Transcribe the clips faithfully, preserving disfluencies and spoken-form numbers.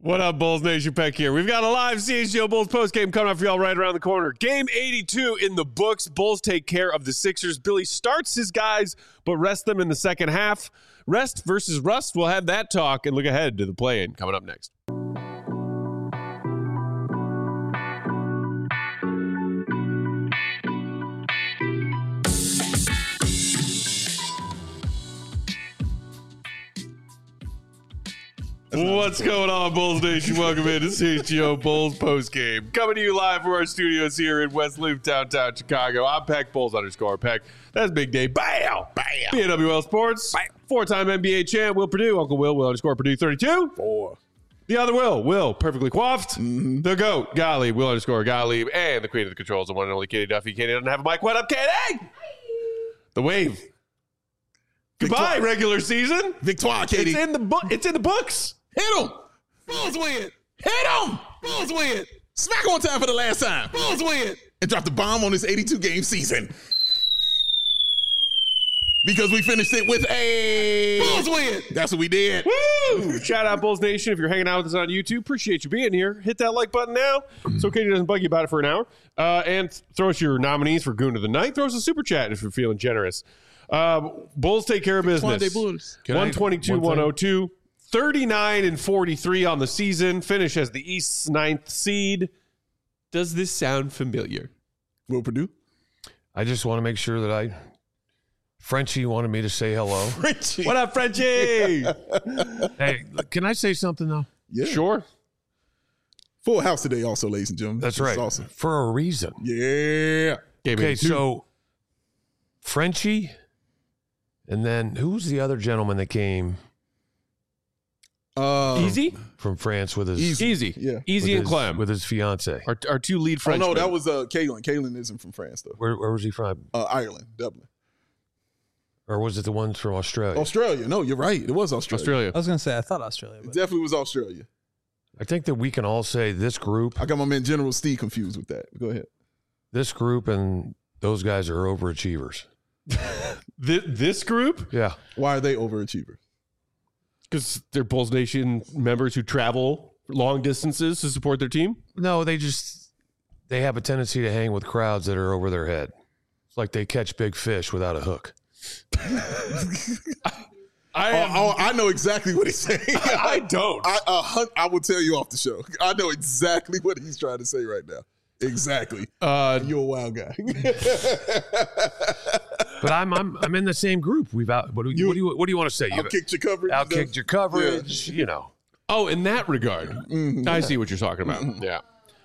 What up, Bulls Nation? Peck here. We've got a live C H G O Bulls postgame coming up for y'all right around the corner. Game eighty-two in the books. Bulls take care of the Sixers. Billy starts his guys, but rests them in the second half. Rest versus rust. We'll have that talk and look ahead to the play-in coming up next. What's going on, Bulls Nation? Welcome in to C H G O Bulls postgame. Coming to you live from our studios here in West Loop, downtown Chicago. I'm Peck, Bulls underscore Peck. That's Big Dave. Bam! Bam! B N W L Sports. Bam. Four-time N B A champ, Will Purdue. Uncle Will, Will underscore Purdue thirty-two. Four. The other Will, Will, perfectly coiffed. Mm-hmm. The GOAT, Gottlieb, Will underscore Gottlieb. And the queen of the controls, the one and only Katie Duffy. Katie doesn't have a mic. What up, Katie? The wave. Goodbye, Victoire. Regular season. Victoire, Katie. It's in the book. It's in the books. Hit him. Bulls win. Hit him. Bulls win. Smack on time for the last time. Bulls win. And drop the bomb on this eighty-two game season. Because we finished it with a Bulls win. That's what we did. Woo! Shout out Bulls Nation. If you're hanging out with us on YouTube, appreciate you being here. Hit that like button now so Katie doesn't bug you about it for an hour. Uh, and throw us your nominees for Goon of the Night. Throw us a super chat if you're feeling generous. Uh, Bulls take care of business. one twenty-two one oh two. thirty-nine and forty-three on the season. Finish as the East's ninth seed. Does this sound familiar? Will Purdue? I just want to make sure that I... Frenchie wanted me to say hello. Frenchie. What up, Frenchie? Hey, can I say something, though? Yeah. Sure. Full house today also, ladies and gentlemen. That's this right. Awesome. For a reason. Yeah. Okay, so Frenchie, and then who's the other gentleman that came... Um, Easy? From France with his... Easy. Easy, yeah. Easy and his, Clem. With his fiance. Our, our two lead Oh, Frenchmen. no, that was uh, Kalen. Kalen isn't from France, though. Where, where was he from? Uh, Ireland, Dublin. Or was it the ones from Australia? Australia. No, you're right. It was Australia. Australia. I was going to say, I thought Australia. It definitely was Australia. I think that we can all say this group... I got my man General Steve confused with that. Go ahead. This group and those guys are overachievers. This, this group? Yeah. Why are they overachievers? Because they're Bulls Nation members who travel long distances to support their team? No, they just... They have a tendency to hang with crowds that are over their head. It's like they catch big fish without a hook. I, oh, oh, I know exactly what he's saying. I don't. I, uh, I will tell you off the show. I know exactly what he's trying to say right now. Exactly. Uh, You're a wild guy. But I'm I'm I'm in the same group. We've out. What do you, what do you what do you want to say? You've outkicked your coverage. Outkicked your coverage. Yeah. You know. Oh, in that regard, mm-hmm. I see what you're talking about. Mm-hmm. Yeah.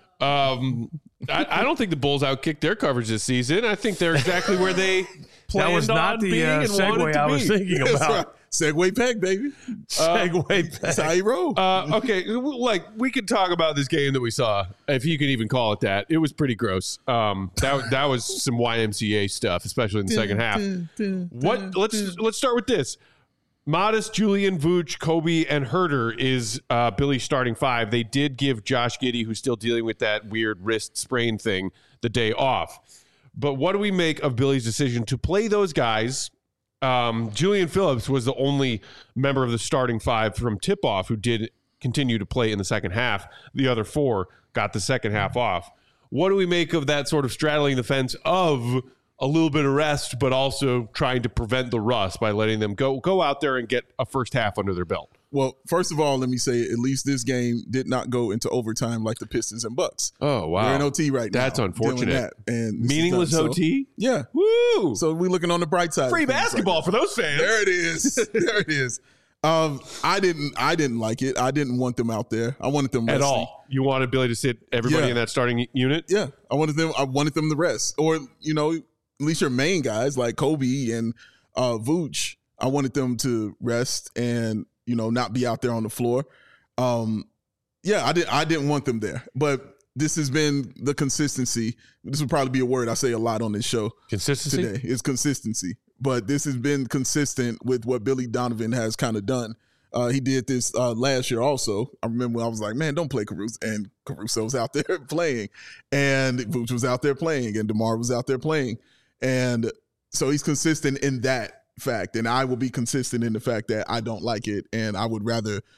Um, I, I don't think the Bulls outkicked their coverage this season. I think they're exactly where they planned that was not on the being uh, and wanted segue to I was be. thinking That's about. right. Segway pack, baby. Segway uh, pack. That's how you roll. Uh, okay, like we could talk about this game that we saw, if you could even call it that. It was pretty gross. Um, that that was some Y M C A stuff, especially in the second half. What? Let's let's start with this. Modest, Julian, Vooch, Kobe, and Herter is uh, Billy's starting five. They did give Josh Giddey, who's still dealing with that weird wrist sprain thing, the day off. But what do we make of Billy's decision to play those guys? Um, Julian Phillips was the only member of the starting five from tip-off who did continue to play in the second half. The other four got the second half off. What do we make of that sort of straddling the fence of a little bit of rest, but also trying to prevent the rust by letting them go go out there and get a first half under their belt? Well, first of all, let me say at least this game did not go into overtime like the Pistons and Bucks. Oh, wow. We're in O T right now. That's unfortunate. That. And meaningless done, O T? So, yeah. Woo! So we're looking on the bright side. Free basketball right for those fans. There it is. There it is. Um, I didn't I didn't like it. I didn't want them out there. I wanted them at resting. all. You wanted Billy to sit everybody Yeah. in that starting unit? Yeah. I wanted them I wanted them to rest. Or, you know, at least your main guys like Kobe and uh, Vooch, I wanted them to rest and, you know, not be out there on the floor. Um, yeah, I didn't I didn't want them there. But this has been the consistency. This would probably be a word I say a lot on this show. Consistency? Today is consistency. But this has been consistent with what Billy Donovan has kind of done. Uh, he did this uh, last year also. I remember I was like, man, don't play Caruso. And Caruso was out there playing. And Vooch was out there playing. And DeMar was out there playing. And so he's consistent in that fact. And I will be consistent in the fact that I don't like it. And I would rather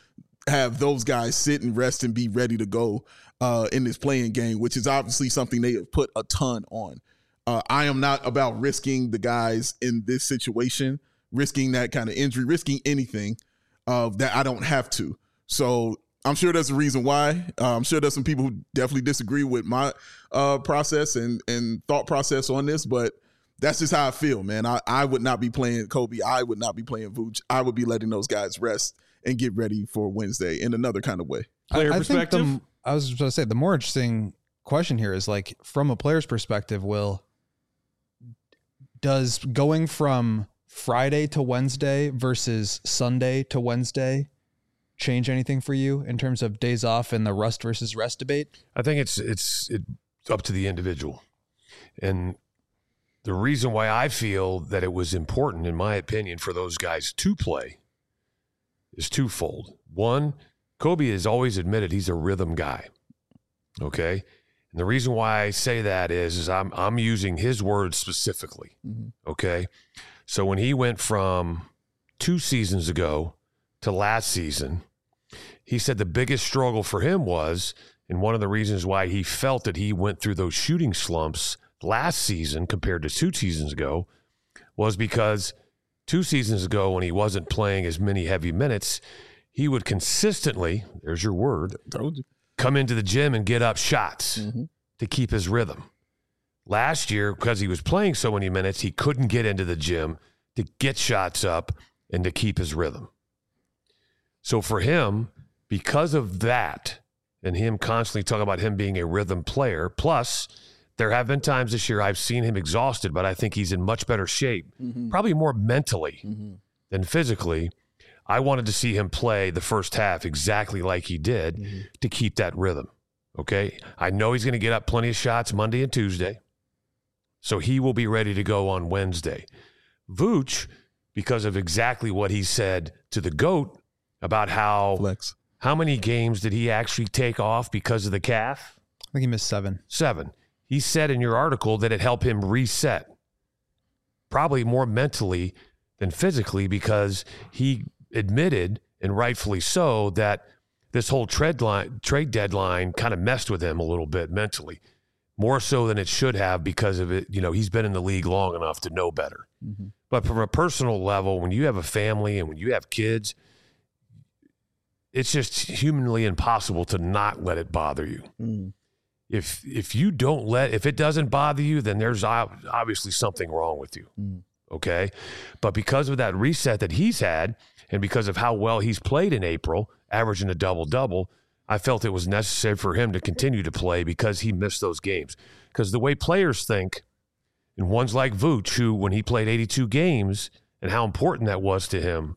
have those guys sit and rest and be ready to go uh, in this playing game, which is obviously something they have put a ton on. Uh, I am not about risking the guys in this situation, risking that kind of injury, risking anything uh, that I don't have to. So I'm sure there's a reason why. Uh, I'm sure there's some people who definitely disagree with my uh, process and, and thought process on this, but that's just how I feel, man. I, I would not be playing Kobe. I would not be playing Vooch. I would be letting those guys rest and get ready for Wednesday in another kind of way. Player I, I perspective? Think the, I was going to say, the more interesting question here is, like, from a player's perspective, Will, does going from Friday to Wednesday versus Sunday to Wednesday change anything for you in terms of days off and the rust versus rest debate? I think it's it's it's up to the individual. And the reason why I feel that it was important, in my opinion, for those guys to play is twofold. One, Kobe has always admitted he's a rhythm guy. Okay? And the reason why I say that is, is I'm I'm using his words specifically. Mm-hmm. Okay? So when he went from two seasons ago to last season, he said the biggest struggle for him was, and one of the reasons why he felt that he went through those shooting slumps last season compared to two seasons ago, was because two seasons ago when he wasn't playing as many heavy minutes, he would consistently, there's your word, Told you. come into the gym and get up shots Mm-hmm. to keep his rhythm. Last year, because he was playing so many minutes, he couldn't get into the gym to get shots up and to keep his rhythm. So for him, because of that, and him constantly talking about him being a rhythm player, plus there have been times this year I've seen him exhausted, but I think he's in much better shape, mm-hmm. probably more mentally mm-hmm. than physically. I wanted to see him play the first half exactly like he did mm-hmm. to keep that rhythm, okay? I know he's going to get up plenty of shots Monday and Tuesday, so he will be ready to go on Wednesday. Vooch, because of exactly what he said to the GOAT about how Flex. How many games did he actually take off because of the calf? I think he missed seven. Seven. He said in your article that it helped him reset, probably more mentally than physically, because he admitted, and rightfully so, that this whole trade line, trade deadline kind of messed with him a little bit mentally, more so than it should have, because of it. You know, he's been in the league long enough to know better. Mm-hmm. But from a personal level, when you have a family and when you have kids, it's just humanly impossible to not let it bother you. Mm. If if you don't let, if it doesn't bother you, then there's obviously something wrong with you. Mm. Okay? But because of that reset that he's had, and because of how well he's played in April, averaging a double-double, I felt it was necessary for him to continue to play because he missed those games. Because the way players think, and ones like Vooch, who when he played eighty-two games and how important that was to him,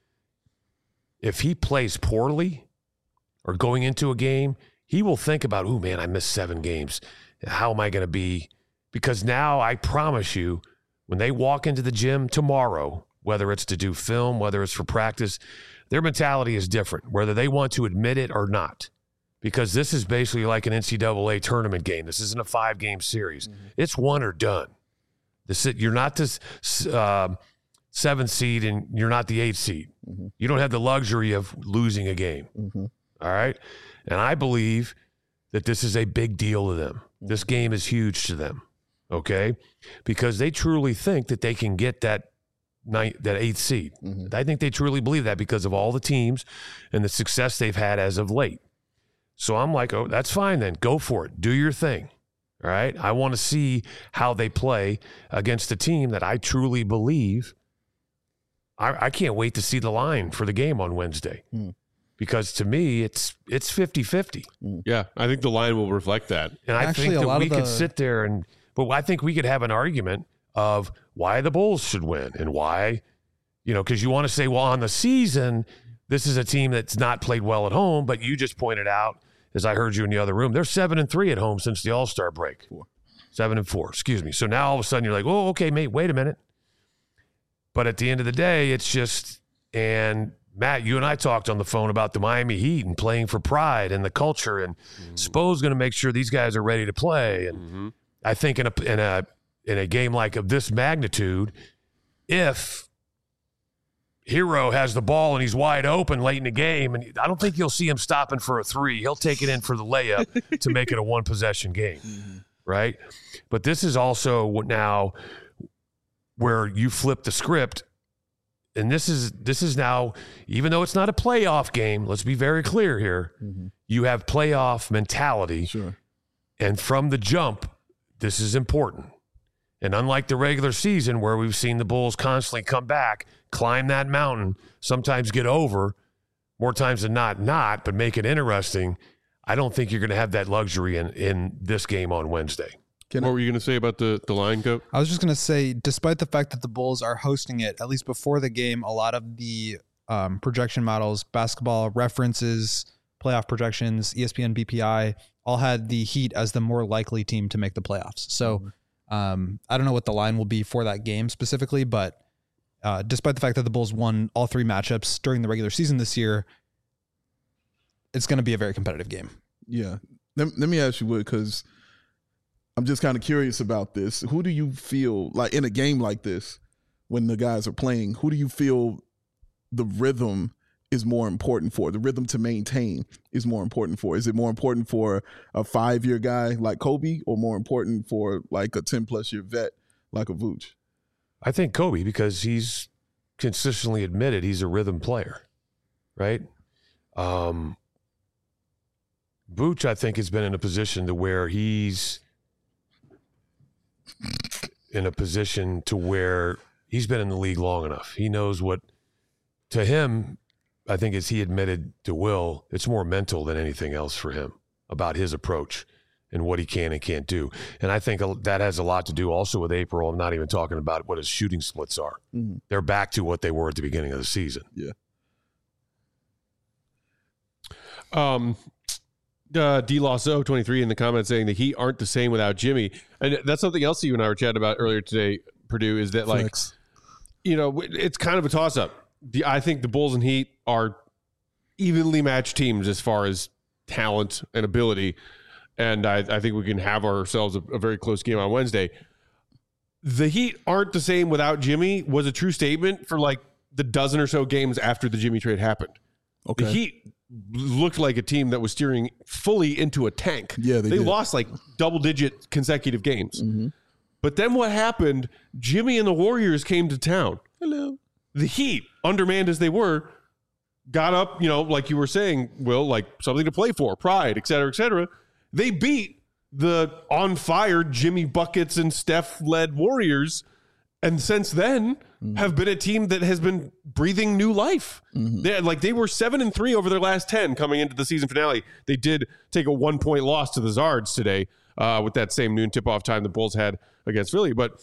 if he plays poorly or going into a game, he will think about, oh, man, I missed seven games. How am I going to be? Because now I promise you, when they walk into the gym tomorrow, whether it's to do film, whether it's for practice, their mentality is different, whether they want to admit it or not. Because this is basically like an N C double A tournament game. This isn't a five-game series. Mm-hmm. It's one or done. This, you're not this uh, seventh seed and you're not the eighth seed. Mm-hmm. You don't have the luxury of losing a game. Mm-hmm. All right? And I believe that this is a big deal to them. Mm-hmm. This game is huge to them, okay? Because they truly think that they can get that ninth, that eighth seed. Mm-hmm. I think they truly believe that because of all the teams and the success they've had as of late. So I'm like, oh, that's fine then. Go for it. Do your thing. All right? I want to see how they play against a team that I truly believe. I, I can't wait to see the line for the game on Wednesday. Mm. Because to me, it's it's fifty-fifty. Yeah, I think the line will reflect that. And I Actually, think that we the... could sit there and, but I think we could have an argument of why the Bulls should win and why, you know, because you want to say, well, on the season, this is a team that's not played well at home, but you just pointed out, as I heard you in the other room, they're seven and three at home since the All-Star break. Four. Seven and four, excuse me. So now all of a sudden you're like, oh, okay, mate, wait a minute. But at the end of the day, it's just, and Matt, you and I talked on the phone about the Miami Heat and playing for pride and the culture, and mm-hmm. Spo's going to make sure these guys are ready to play. And mm-hmm. I think in a in a in a game like of this magnitude, if Hero has the ball and he's wide open late in the game, and I don't think you'll see him stopping for a three. He'll take it in for the layup to make it a one-possession game, mm-hmm. right? But this is also now where you flip the script, and this is this is now, even though it's not a playoff game, let's be very clear here, mm-hmm. you have playoff mentality, sure. and from the jump, this is important. And unlike the regular season where we've seen the Bulls constantly come back, climb that mountain, sometimes get over, more times than not, not, but make it interesting, I don't think you're going to have that luxury in, in this game on Wednesday. Can what I, were you going to say about the, the line, Coach? I was just going to say, despite the fact that the Bulls are hosting it, at least before the game, a lot of the um, projection models, basketball references, playoff projections, E S P N B P I, all had the Heat as the more likely team to make the playoffs. So mm-hmm. Um, I don't know what the line will be for that game specifically, but uh, despite the fact that the Bulls won all three matchups during the regular season this year, it's going to be a very competitive game. Yeah. Let, let me ask you, Wood, because I'm just kind of curious about this. Who do you feel, like in a game like this, when the guys are playing, who do you feel the rhythm is more important for? The rhythm to maintain is more important for? Is it more important for a five-year guy like Kobe, or more important for like a ten-plus year vet like a Vooch? I think Kobe, because he's consistently admitted he's a rhythm player, right? Um, Vooch, I think, has been in a position to where he's in a position to where he's been in the league long enough. He knows what, to him, I think as he admitted to Will, it's more mental than anything else for him about his approach and what he can and can't do. And I think that has a lot to do also with April. I'm not even talking about what his shooting splits are. Mm-hmm. They're back to what they were at the beginning of the season. Yeah. Um, uh, D Losso twenty-three in the comments saying the Heat aren't the same without Jimmy. And that's something else that you and I were chatting about earlier today, Purdue, is that like, Flex. you know, it's kind of a toss up. The, I think the Bulls and Heat are evenly matched teams as far as talent and ability, and I, I think we can have ourselves a, a very close game on Wednesday. The Heat aren't the same without Jimmy was a true statement for like the dozen or so games after the Jimmy trade happened. Okay. The Heat looked like a team that was steering fully into a tank. Yeah, they, they did. lost like double-digit consecutive games. Mm-hmm. But then what happened, Jimmy and the Warriors came to town. Hello. The Heat, undermanned as they were, got up, you know, like you were saying, Will, like something to play for, pride, et cetera, et cetera. They beat the on-fire Jimmy Buckets and Steph-led Warriors, and since then mm-hmm. have been a team that has been breathing new life. Mm-hmm. They, like they were seven and three over their last ten coming into the season finale. They did take a one-point loss to the Zards today uh, with that same noon tip-off time the Bulls had against Philly, but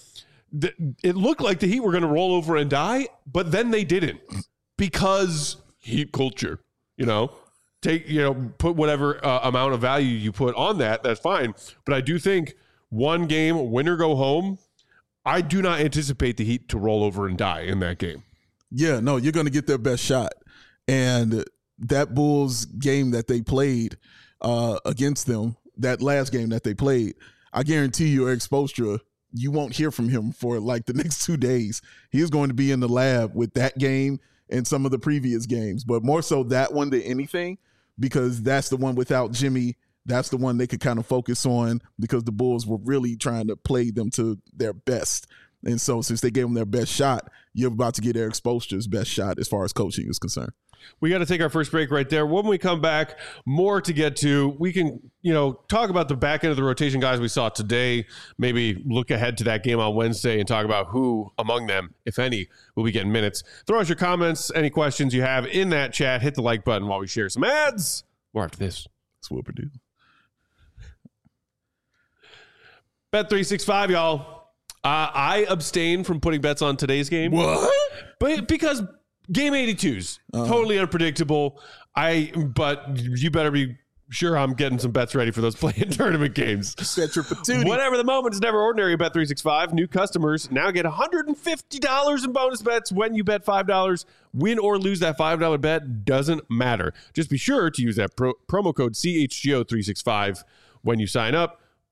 it looked like the Heat were going to roll over and die, but then they didn't because Heat culture, you know, take, you know, put whatever uh, amount of value you put on that. That's fine. But I do think one game, win or go home, I do not anticipate the Heat to roll over and die in that game. Yeah, no, you're going to get their best shot. And that Bulls game that they played uh, against them, that last game that they played, I guarantee you Eric Spoelstra, you won't hear from him for like the next two days. He is going to be in the lab with that game and some of the previous games, but more so that one than anything, because that's the one without Jimmy. That's the one they could kind of focus on because the Bulls were really trying to play them to their best. And so since they gave them their best shot, you're about to get Eric Spoelstra's best shot as far as coaching is concerned. We got to take our first break right there. When we come back, more to get to. We can, you know, talk about the back end of the rotation guys we saw today, maybe look ahead to that game on Wednesday and talk about who among them, if any, will be getting minutes. Throw us your comments, any questions you have in that chat. Hit the like button while we share some ads. More after this. That's what we do. Bet three sixty-five, y'all. Uh, I abstain from putting bets on today's game. What? But because game eighty-twos, uh-huh. totally unpredictable. I but you better be sure I'm getting some bets ready for those play-in tournament games. Set your patootie. Whatever the moment is never ordinary at Bet three sixty-five. New customers now get one hundred fifty dollars in bonus bets when you bet five dollars. Win or lose that five dollars bet doesn't matter. Just be sure to use that pro- promo code C H G O three sixty-five when you sign up.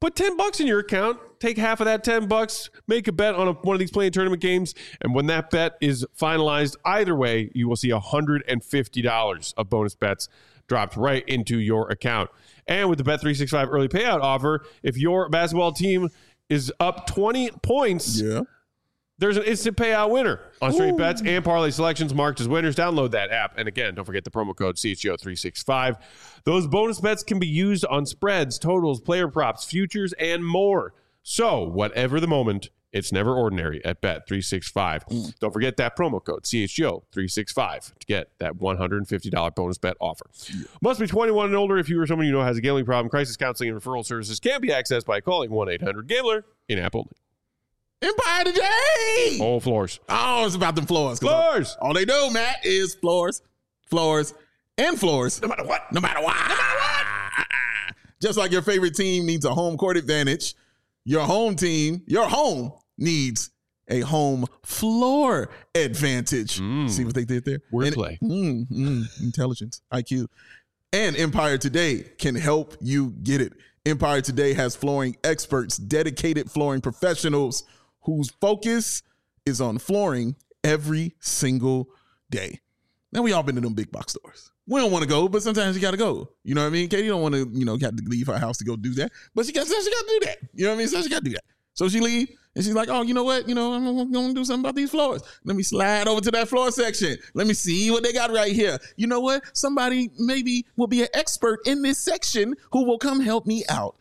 Put ten bucks in your account, take half of that ten bucks, make a bet on a, one of these playing tournament games, and when that bet is finalized, either way, you will see one hundred fifty dollars of bonus bets dropped right into your account. And with the Bet three sixty-five early payout offer, if your basketball team is up twenty points, Yeah. there's an instant payout winner on straight bets and parlay selections marked as winners. Download that app. And again, don't forget the promo code C H G O three sixty-five. Those bonus bets can be used on spreads, totals, player props, futures, and more. So whatever the moment, it's never ordinary at Bet three sixty-five. Mm. Don't forget that promo code C H G O three sixty-five to get that one hundred fifty dollars bonus bet offer. Yeah. Must be twenty-one and older if you or someone you know has a gambling problem. Crisis counseling and referral services can be accessed by calling one eight hundred gambler in app only. Empire today. Oh, floors. Oh, it's about them floors. Floors. All, all they do, Matt, is floors, floors, and floors. No matter what. No matter what. No matter what. Just like your favorite team needs a home court advantage, your home team, your home needs a home floor advantage. Mm. See what they did there? Wordplay. Mm, mm, intelligence, I Q. And Empire Today can help you get it. Empire Today has flooring experts, dedicated flooring professionals whose focus is on flooring every single day. Now, we all been to them big box stores. We don't want to go, but sometimes you got to go. You know what I mean? Katie don't want to, you know, got to leave her house to go do that. But she got, she got to do that. You know what I mean? So she got to do that. So she leave, and she's like, oh, you know what? You know, I'm going to do something about these floors. Let me slide over to that floor section. Let me see what they got right here. You know what? Somebody maybe will be an expert in this section who will come help me out.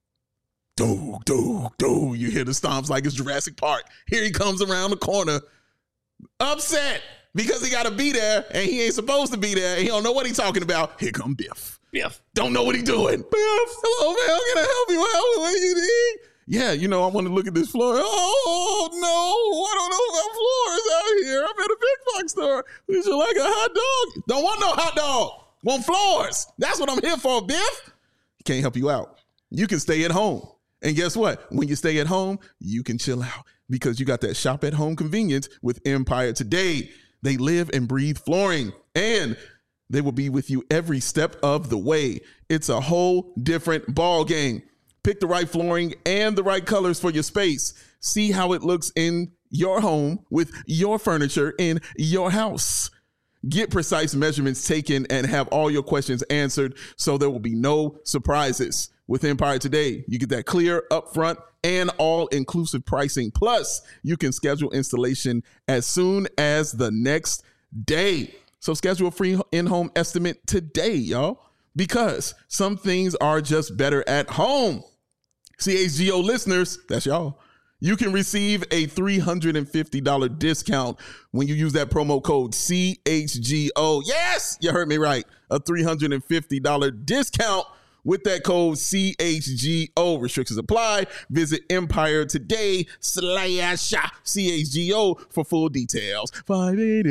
Do, do, do. You hear the stomps like it's Jurassic Park. Here he comes around the corner, upset because he got to be there, and he ain't supposed to be there. He don't know what he's talking about. Here come Biff. Biff. Don't know what he's doing. Biff. Hello, man. How can I help you out? What do you need? Yeah, you know, I want to look at this floor. Oh, no, I don't know about floors out here. I'm at a big box store. Would you like a hot dog? Don't want no hot dog. Want floors. That's what I'm here for, Biff. Can't help you out. You can stay at home. And guess what? When you stay at home, you can chill out because you got that shop at home convenience with Empire Today. They live and breathe flooring, and they will be with you every step of the way. It's a whole different ball game. Pick the right flooring and the right colors for your space. See how it looks in your home with your furniture in your house. Get precise measurements taken and have all your questions answered so there will be no surprises. With Empire Today, you get that clear, upfront, and all-inclusive pricing. Plus, you can schedule installation as soon as the next day. So schedule a free in-home estimate today, y'all, because some things are just better at home. C H G O listeners, that's y'all. You can receive a three hundred fifty dollars discount when you use that promo code C H G O. Yes, you heard me right. A three hundred fifty dollars discount with that code C H G O. Restrictions apply. Visit Empire Today slash C H G O for full details. five eight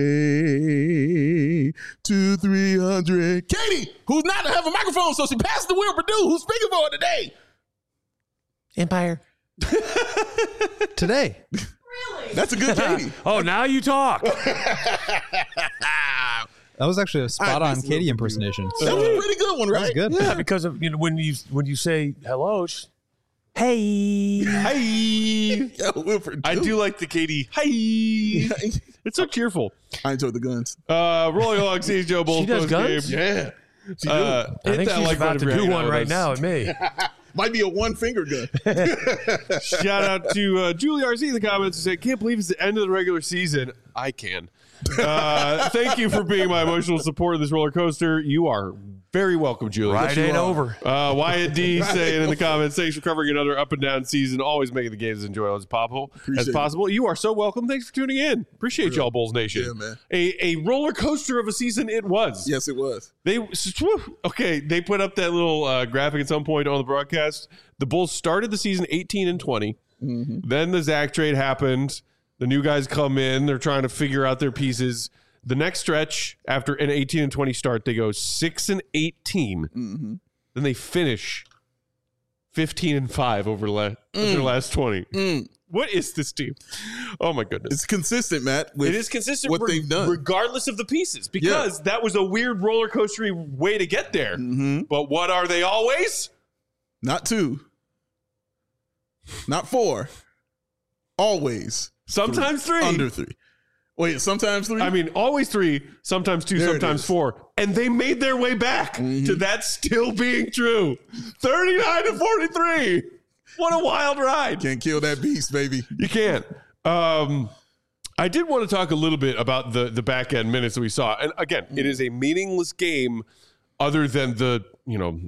eight, two three hundred. Katie, who's not to have a microphone, so she passed the wheel Purdue. Who's speaking for her today? Empire. Today. Really? That's a good Katie. Oh, now you talk. That was actually a spot on Katie impersonation. That was a pretty good one, right? That was good. Yeah, because of, you know, when you when you say hello, it's, hey, Hi. Yeah, Wilford, I do like the Katie. Hi. It's so cheerful. I enjoyed the guns. Uh, rolling along C H G O Bulls She does post guns? game. Yeah. She do. Uh, I hit think that she's like about button to if do you're one hanging out right with now us. at me. Might be a one finger gun. Shout out to uh, Julie R C in the comments who said, can't believe it's the end of the regular season. I can. Uh, thank you for being my emotional support of this roller coaster. You are very welcome, Julie. Right ain't over. Uh, Wyatt D saying in the comments, thanks for covering another up and down season, always making the games as enjoyable as possible. Appreciate as possible. You are so welcome. Thanks for tuning in. Appreciate y'all, Bulls Nation. Yeah, man. A, a roller coaster of a season it was. Yes, it was. They okay. They put up that little uh, graphic at some point on the broadcast. The Bulls started the season eighteen and twenty. Mm-hmm. Then the Zach trade happened. The new guys come in. They're trying to figure out their pieces. The next stretch after an eighteen and twenty start, they go six and eighteen. Mm-hmm. Then they finish fifteen and five over la- mm. their last twenty. Mm. What is this team? Oh my goodness! It's consistent, Matt. With it is consistent. What re- they've done, regardless of the pieces, because yeah. that was a weird roller coastery way to get there. Mm-hmm. But what are they always? Not two. not four. Always. Sometimes three. Under three. Wait, sometimes three? I mean, always three, sometimes two, There it sometimes is. four. And they made their way back Mhm. to that still being true. thirty-nine to forty-three. What a wild ride. Can't kill that beast, baby. You can't. Um, I did want to talk a little bit about the, the back end minutes that we saw. And again, it is a meaningless game other than the, you know,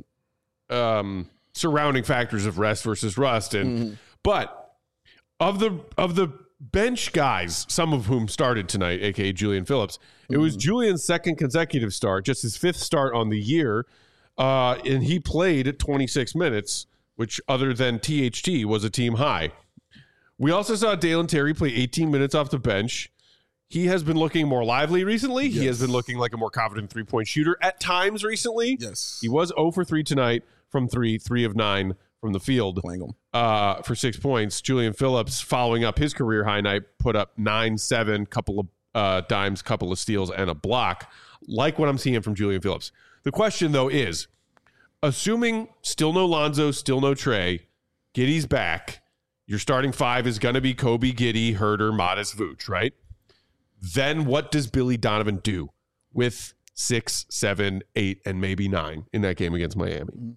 um, surrounding factors of rest versus rust. And Mm-hmm. but of the of the bench guys, some of whom started tonight, aka Julian Phillips, it was Julian's second consecutive start, just his fifth start on the year. Uh, and he played twenty-six minutes, which other than T H T was a team high. We also saw Dalen Terry play eighteen minutes off the bench. He has been looking more lively recently. He has Yes. been looking like a more confident three-point shooter at times recently. Yes. He was zero for three tonight from three, three of nine from the field Playing them. uh, for six points. Julian Phillips, following up his career high night, put up nine, seven, couple of uh, dimes, couple of steals, and a block. Like what I'm seeing from Julian Phillips. The question, though, is, assuming still no Lonzo, still no Trey, Giddey's back, your starting five is going to be Kobe, Giddey, Herter, Modest, Vooch, right? Then what does Billy Donovan do with six, seven, eight, and maybe nine in that game against Miami?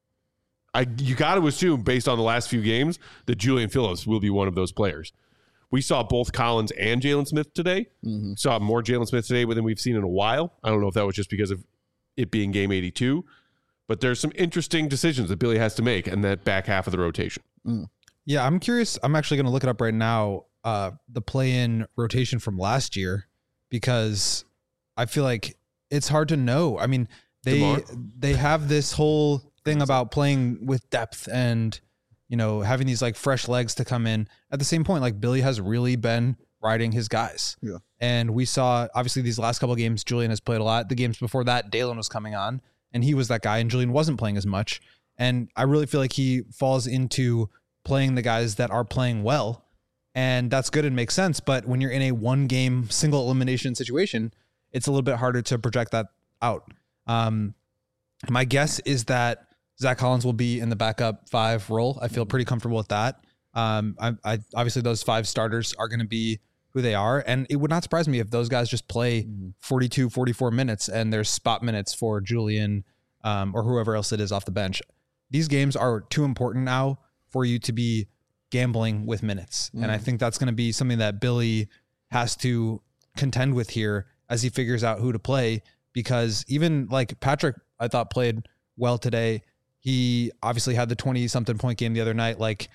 I you got to assume, based on the last few games, that Julian Phillips will be one of those players. We saw both Collins and Jalen Smith today. Mm-hmm. Saw more Jalen Smith today than we've seen in a while. I don't know if that was just because of it being game eighty-two, but there's some interesting decisions that Billy has to make in that back half of the rotation. Yeah, I'm curious. I'm actually going to look it up right now, uh, the play-in rotation from last year, because I feel like it's hard to know. I mean, they DeMar? they have this whole thing about playing with depth and, you know, having these like fresh legs to come in. At the same point, like Billy has really been riding his guys. Yeah. And we saw, obviously, these last couple of games, Julian has played a lot. The games before that, Dalen was coming on, and he was that guy, and Julian wasn't playing as much. And I really feel like he falls into playing the guys that are playing well, and that's good and makes sense. But when you're in a one game single elimination situation, it's a little bit harder to project that out. Um, my guess is that Zach Collins will be in the backup five role. I feel pretty comfortable with that. Um, I, I obviously those five starters are going to be who they are. And it would not surprise me if those guys just play forty-two, forty-four minutes and there's spot minutes for Julian, um, or whoever else it is off the bench. These games are too important now for you to be gambling with minutes. Mm. And I think that's going to be something that Billy has to contend with here as he figures out who to play, because even like Patrick, I thought played well today. He obviously had the twenty something point game the other night. Like,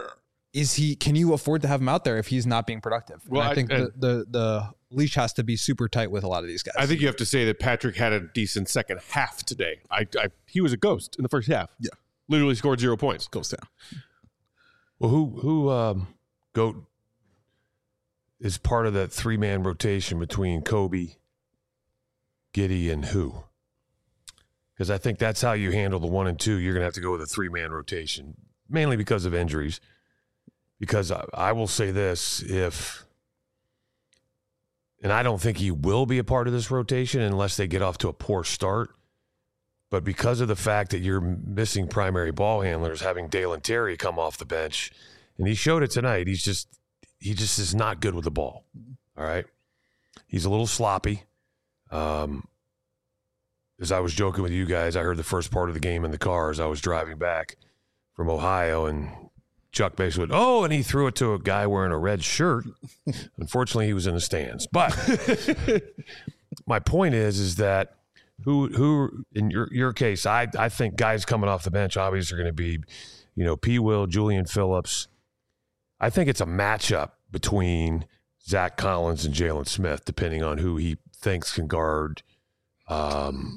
is he, can you afford to have him out there if he's not being productive? Well, and I I- think I- the, the, the leash has to be super tight with a lot of these guys. I think you have to say that Patrick had a decent second half today. I, I he was a ghost in the first half. Yeah. Literally scored zero points. Ghost Town. Well, who who um, Goat is part of that three man rotation between Kobe, Giddey, and who? Because I think that's how you handle the one and two. You're going to have to go with a three man rotation, mainly because of injuries. Because I, I will say this, if, and I don't think he will be a part of this rotation unless they get off to a poor start. But because of the fact that you're missing primary ball handlers, having Dalen Terry come off the bench, and he showed it tonight, he's just, he just is not good with the ball. All right. He's a little sloppy. Um, as I was joking with you guys, I heard the first part of the game in the car as I was driving back from Ohio, and Chuck basically went, oh, and he threw it to a guy wearing a red shirt. Unfortunately, he was in the stands. But my point is, is that who, who in your your case, I I think guys coming off the bench obviously are going to be, you know, P. Will, Julian Phillips. I think it's a matchup between Zach Collins and Jalen Smith, depending on who he thinks can guard. Um,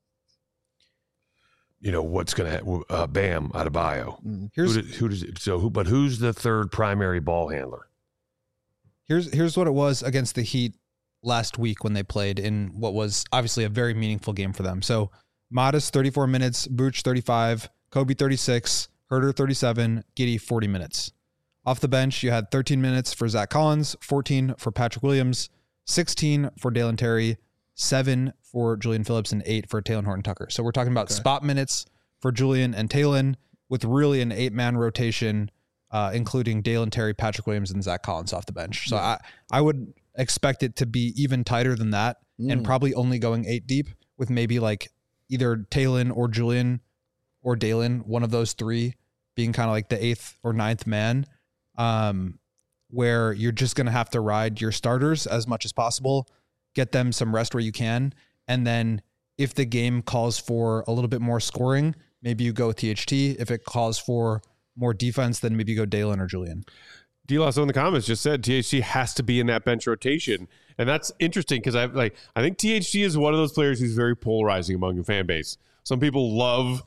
you know what's going to uh, Bam Adebayo. Here's Who, did, who does it, so who? But who's the third primary ball handler? Here's here's what it was against the Heat last week when they played in what was obviously a very meaningful game for them. So Modest thirty-four minutes, Vooch thirty-five, Kobe thirty-six, Herter thirty-seven, Giddey forty minutes. Off the bench, you had thirteen minutes for Zach Collins, fourteen for Patrick Williams, sixteen for Dalen Terry, seven for Julian Phillips, and eight for Talen Horton-Tucker. So we're talking about Okay. spot minutes for Julian and Talen with really an eight-man rotation uh, including Dalen Terry, Patrick Williams, and Zach Collins off the bench. So yeah. I, I would expect it to be even tighter than that mm. and probably only going eight deep with maybe like either Talen or Julian or Dalen, one of those three being kind of like the eighth or ninth man, um, where you're just going to have to ride your starters as much as possible, get them some rest where you can. And then if the game calls for a little bit more scoring, maybe you go with T H T. If it calls for more defense, then maybe you go Dalen or Julian. D-Lasso in the comments just said T H T has to be in that bench rotation. And that's interesting because I like I think T H T is one of those players who's very polarizing among the fan base. Some people love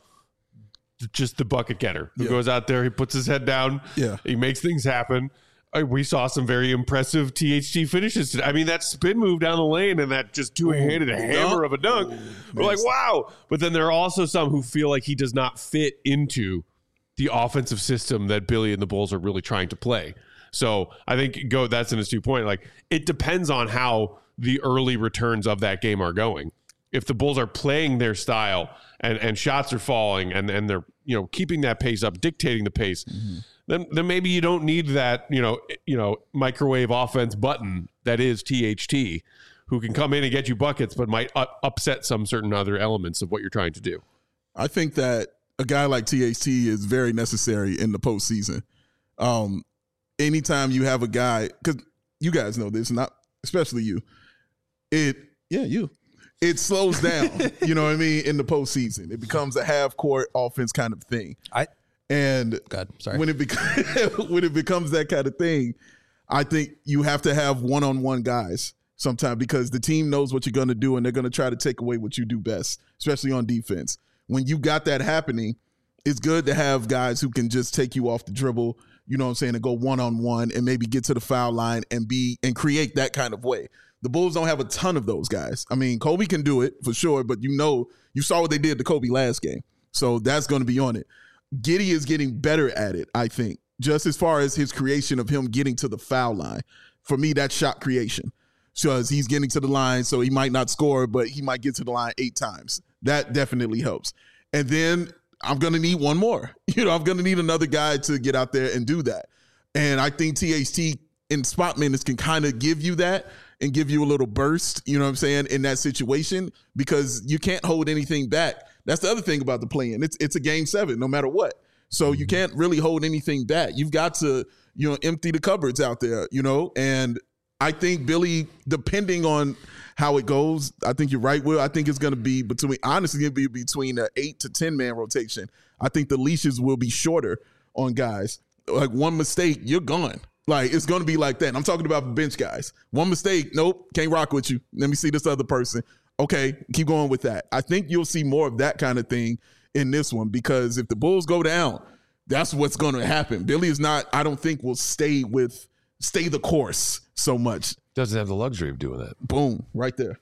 just the bucket getter who yeah. goes out there, he puts his head down, yeah. he makes things happen. We saw some very impressive T H T finishes today. I mean, that spin move down the lane and that just two-handed oh, hammer of a dunk. Oh, we're like, wow. But then there are also some who feel like he does not fit into the offensive system that Billy and the Bulls are really trying to play. So I think go that's an astute point. Like, it depends on how the early returns of that game are going. If the Bulls are playing their style and, and shots are falling and, and they're, you know, keeping that pace up, dictating the pace, mm-hmm. then then maybe you don't need that, you know, you know, microwave offense button that is T H T, who can come in and get you buckets, but might u- upset some certain other elements of what you're trying to do. I think that a guy like T H T is very necessary in the postseason. Um, anytime you have a guy, because you guys know this, not especially you, it yeah you. It slows down, you know what I mean, in the postseason. It becomes a half-court offense kind of thing. I and God, sorry. when it becomes when it becomes that kind of thing, I think you have to have one-on-one guys sometimes because the team knows what you're going to do and they're going to try to take away what you do best, especially on defense. When you got that happening, it's good to have guys who can just take you off the dribble, you know what I'm saying, and go one-on-one and maybe get to the foul line and be and create that kind of way. The Bulls don't have a ton of those guys. I mean, Kobe can do it for sure, but you know, you saw what they did to Kobe last game. So that's going to be on it. Giddey is getting better at it, I think, just as far as his creation of him getting to the foul line. For me, that's shot creation. Because he's getting to the line, so he might not score, but he might get to the line eight times. That definitely helps. And then I'm going to need one more. You know, I'm going to need another guy to get out there and do that. And I think T H T in spot minutes can kind of give you that and give you a little burst, you know what I'm saying, in that situation because you can't hold anything back. That's the other thing about the play-in. It's it's a game seven, no matter what. So you can't really hold anything back. You've got to, you know, empty the cupboards out there, you know. And I think Billy, depending on how it goes, I think you're right, Will. I think it's going to be between, honestly, it'll be between an eight to ten man rotation. I think the leashes will be shorter on guys. Like one mistake, you're gone. Like, it's going to be like that. And I'm talking about bench guys. One mistake, nope, can't rock with you. Let me see this other person. Okay, keep going with that. I think you'll see more of that kind of thing in this one because if the Bulls go down, that's what's going to happen. Billy is not, I don't think, will stay with, stay the course so much. Doesn't have the luxury of doing that. Boom, right there.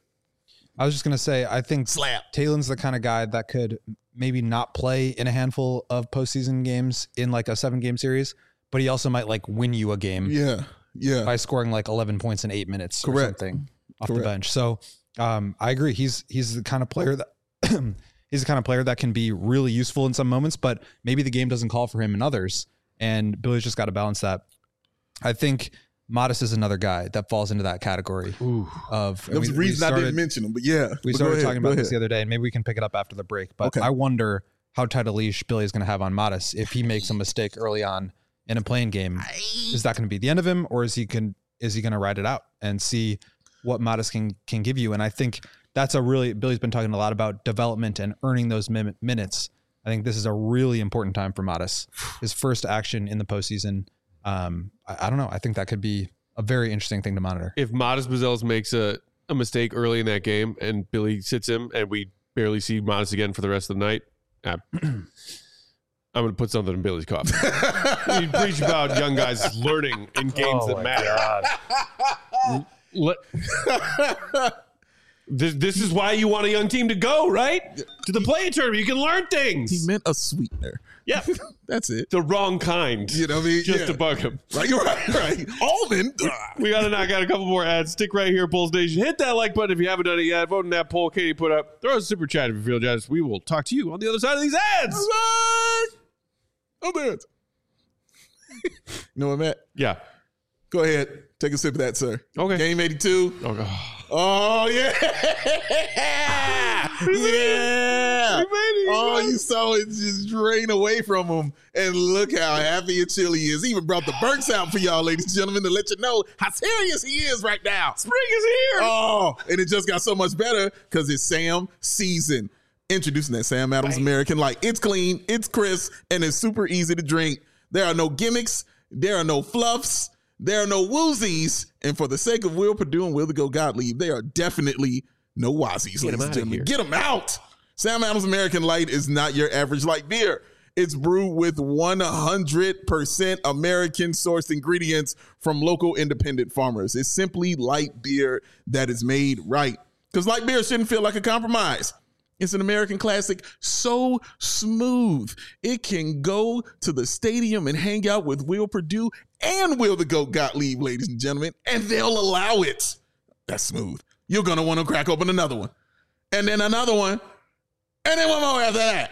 I was just going to say, I think Slap. Talen's the kind of guy that could maybe not play in a handful of postseason games in like a seven-game series, but he also might like win you a game. Yeah, yeah. By scoring like eleven points in eight minutes Correct. or something off Correct. the bench. So um, I agree. He's he's the kind of player that he's the kind of player that can be really useful in some moments, but maybe the game doesn't call for him in others. And Billy's just got to balance that. I think Modest is another guy that falls into that category. Ooh. Of That was the reason started, I didn't mention him, but yeah. We but started ahead, talking about ahead. this the other day, and maybe we can pick it up after the break. But Okay. I wonder how tight a leash Billy is going to have on Modest if he makes a mistake early on in a playing game. Is that going to be the end of him, or is he can is he going to ride it out and see what Modest can can give you? And I think that's a really Billy's been talking a lot about development and earning those min- minutes. I think this is a really important time for Modest. His first action in the postseason. Um, I, I don't know. I think that could be a very interesting thing to monitor. If Modest Buzelis makes a, a mistake early in that game and Billy sits him and we barely see Modest again for the rest of the night, I, I'm going to put something in Billy's coffee. You preach about young guys learning in games Oh that my matter. Let- this, this is why you want a young team to go, right? To the play tournament. You can learn things. He meant a sweetener. Yeah. That's it. The wrong kind. You know what I mean? Just Yeah. to bug him. Right, you're right, right. Almond. We got to knock out a couple more ads. Stick right here, Bulls Nation. Hit that like button if you haven't done it yet. Vote in that poll Katie put up. Throw us a super chat if you feel generous. We will talk to you on the other side of these ads. Oh, man. You know what, Matt? Yeah. Go ahead. Take a sip of that, sir. Okay. Game eighty-two. Oh, God. Oh, yeah. yeah. Oh, you saw it just drain away from him. And look how happy and chill he is. He even brought the Burks out for y'all, ladies and gentlemen, to let you know how serious he is right now. Spring is here. Oh, and it just got so much better because it's Sam season. Introducing that Sam Adams American Light. It's clean, it's crisp, and it's super easy to drink. There are no gimmicks. There are no fluffs. There are no woozies. And for the sake of Will Perdue and Will the Go Gottlieb, there are definitely no wazzies, ladies and gentlemen. Get them out. Sam Adams American Light is not your average light beer. It's brewed with one hundred percent American sourced ingredients from local independent farmers. It's simply light beer that is made right. Because light beer shouldn't feel like a compromise. It's an American classic, so smooth. It can go to the stadium and hang out with Will Perdue and Will the Goat Gottlieb, ladies and gentlemen, and they'll allow it. That's smooth. You're going to want to crack open another one, and then another one, and then one more after that.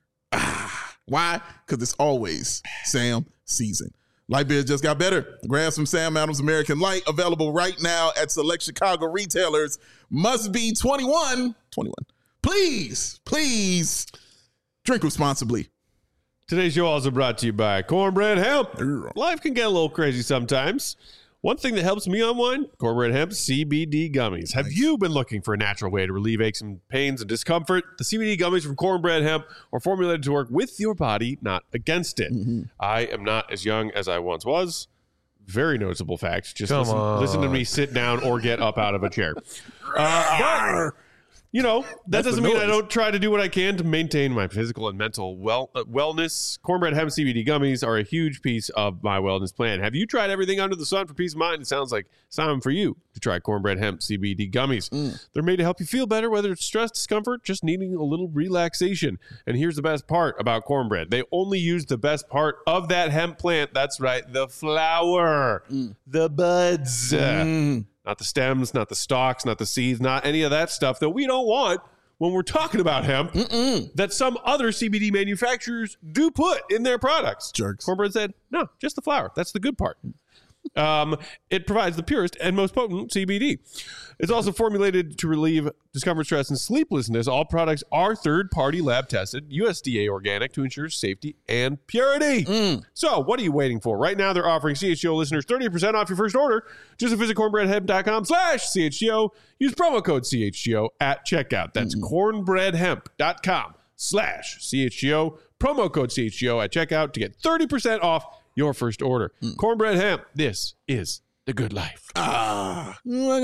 Ah, why? Because it's always Sam season. Light beer just got better. Grab some Sam Adams American Light, available right now at select Chicago retailers. Must be twenty-one. twenty-one. Please, please drink responsibly. Today's show also brought to you by Cornbread Hemp. Life can get a little crazy sometimes. One thing that helps me unwind, Cornbread Hemp C B D gummies. Have you been looking for a natural way to relieve aches and pains and discomfort? The C B D gummies from Cornbread Hemp are formulated to work with your body, not against it. Mm-hmm. I am not as young as I once was. Very noticeable fact. Just listen, listen to me sit down or get up out of a chair. Uh, but, you know, that That's doesn't mean I don't try to do what I can to maintain my physical and mental well uh, wellness. Cornbread Hemp C B D gummies are a huge piece of my wellness plan. Have you tried everything under the sun for peace of mind? It sounds like it's time for you to try Cornbread Hemp C B D gummies. Mm. They're made to help you feel better, whether it's stress, discomfort, just needing a little relaxation. And here's the best part about cornbread. They only use the best part of that hemp plant. That's right, the flower, mm. the buds. Mm. Not the stems, not the stalks, not the seeds, not any of that stuff that we don't want when we're talking about hemp. Mm-mm. That some other C B D manufacturers do put in their products. Jerks. Cornbread said, no, just the flower. That's the good part. Um, it provides the purest and most potent C B D. It's also formulated to relieve discomfort, stress, and sleeplessness. All products are third-party lab tested, U S D A organic to ensure safety and purity. Mm. So what are you waiting for? Right now, they're offering C H G O listeners thirty percent off your first order. Just visit cornbreadhemp.com slash CHGO. Use promo code C H G O at checkout. That's mm. cornbreadhemp.com slash CHGO. Promo code C H G O at checkout to get thirty percent off your first order. Mm. Cornbread Hemp. This is the good life. Ah.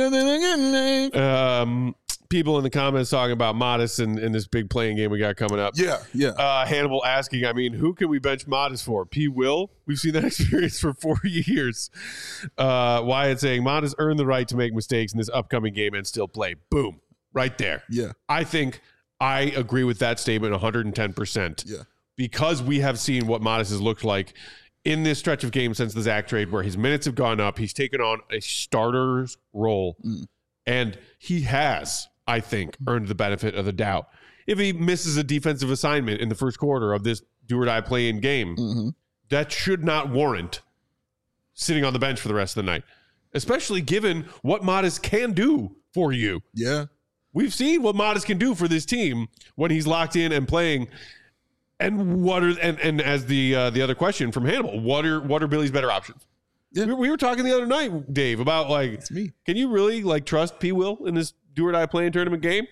Um, people in the comments talking about Modest and, and this big playing game we got coming up. Yeah, yeah. Uh, Hannibal asking, I mean, who can we bench Modest for? P. Will? We've seen that experience for four years. Uh, Wyatt saying, Modest earned the right to make mistakes in this upcoming game and still play. Boom. Right there. Yeah. I think I agree with that statement one hundred ten percent. Yeah. Because we have seen what Modest has looked like in this stretch of games since the Zach trade, where his minutes have gone up. He's taken on a starter's role, mm. and he has, I think, earned the benefit of the doubt. If he misses a defensive assignment in the first quarter of this do-or-die play-in game, mm-hmm. that should not warrant sitting on the bench for the rest of the night, especially given what Modest can do for you. Yeah. We've seen what Modest can do for this team when he's locked in and playing. And what are and, and as the uh, the other question from Hannibal, what are what are Billy's better options? Yeah. We, we were talking the other night, Dave, about like, it's me. Can you really like trust P. Will in this do or die playing tournament game?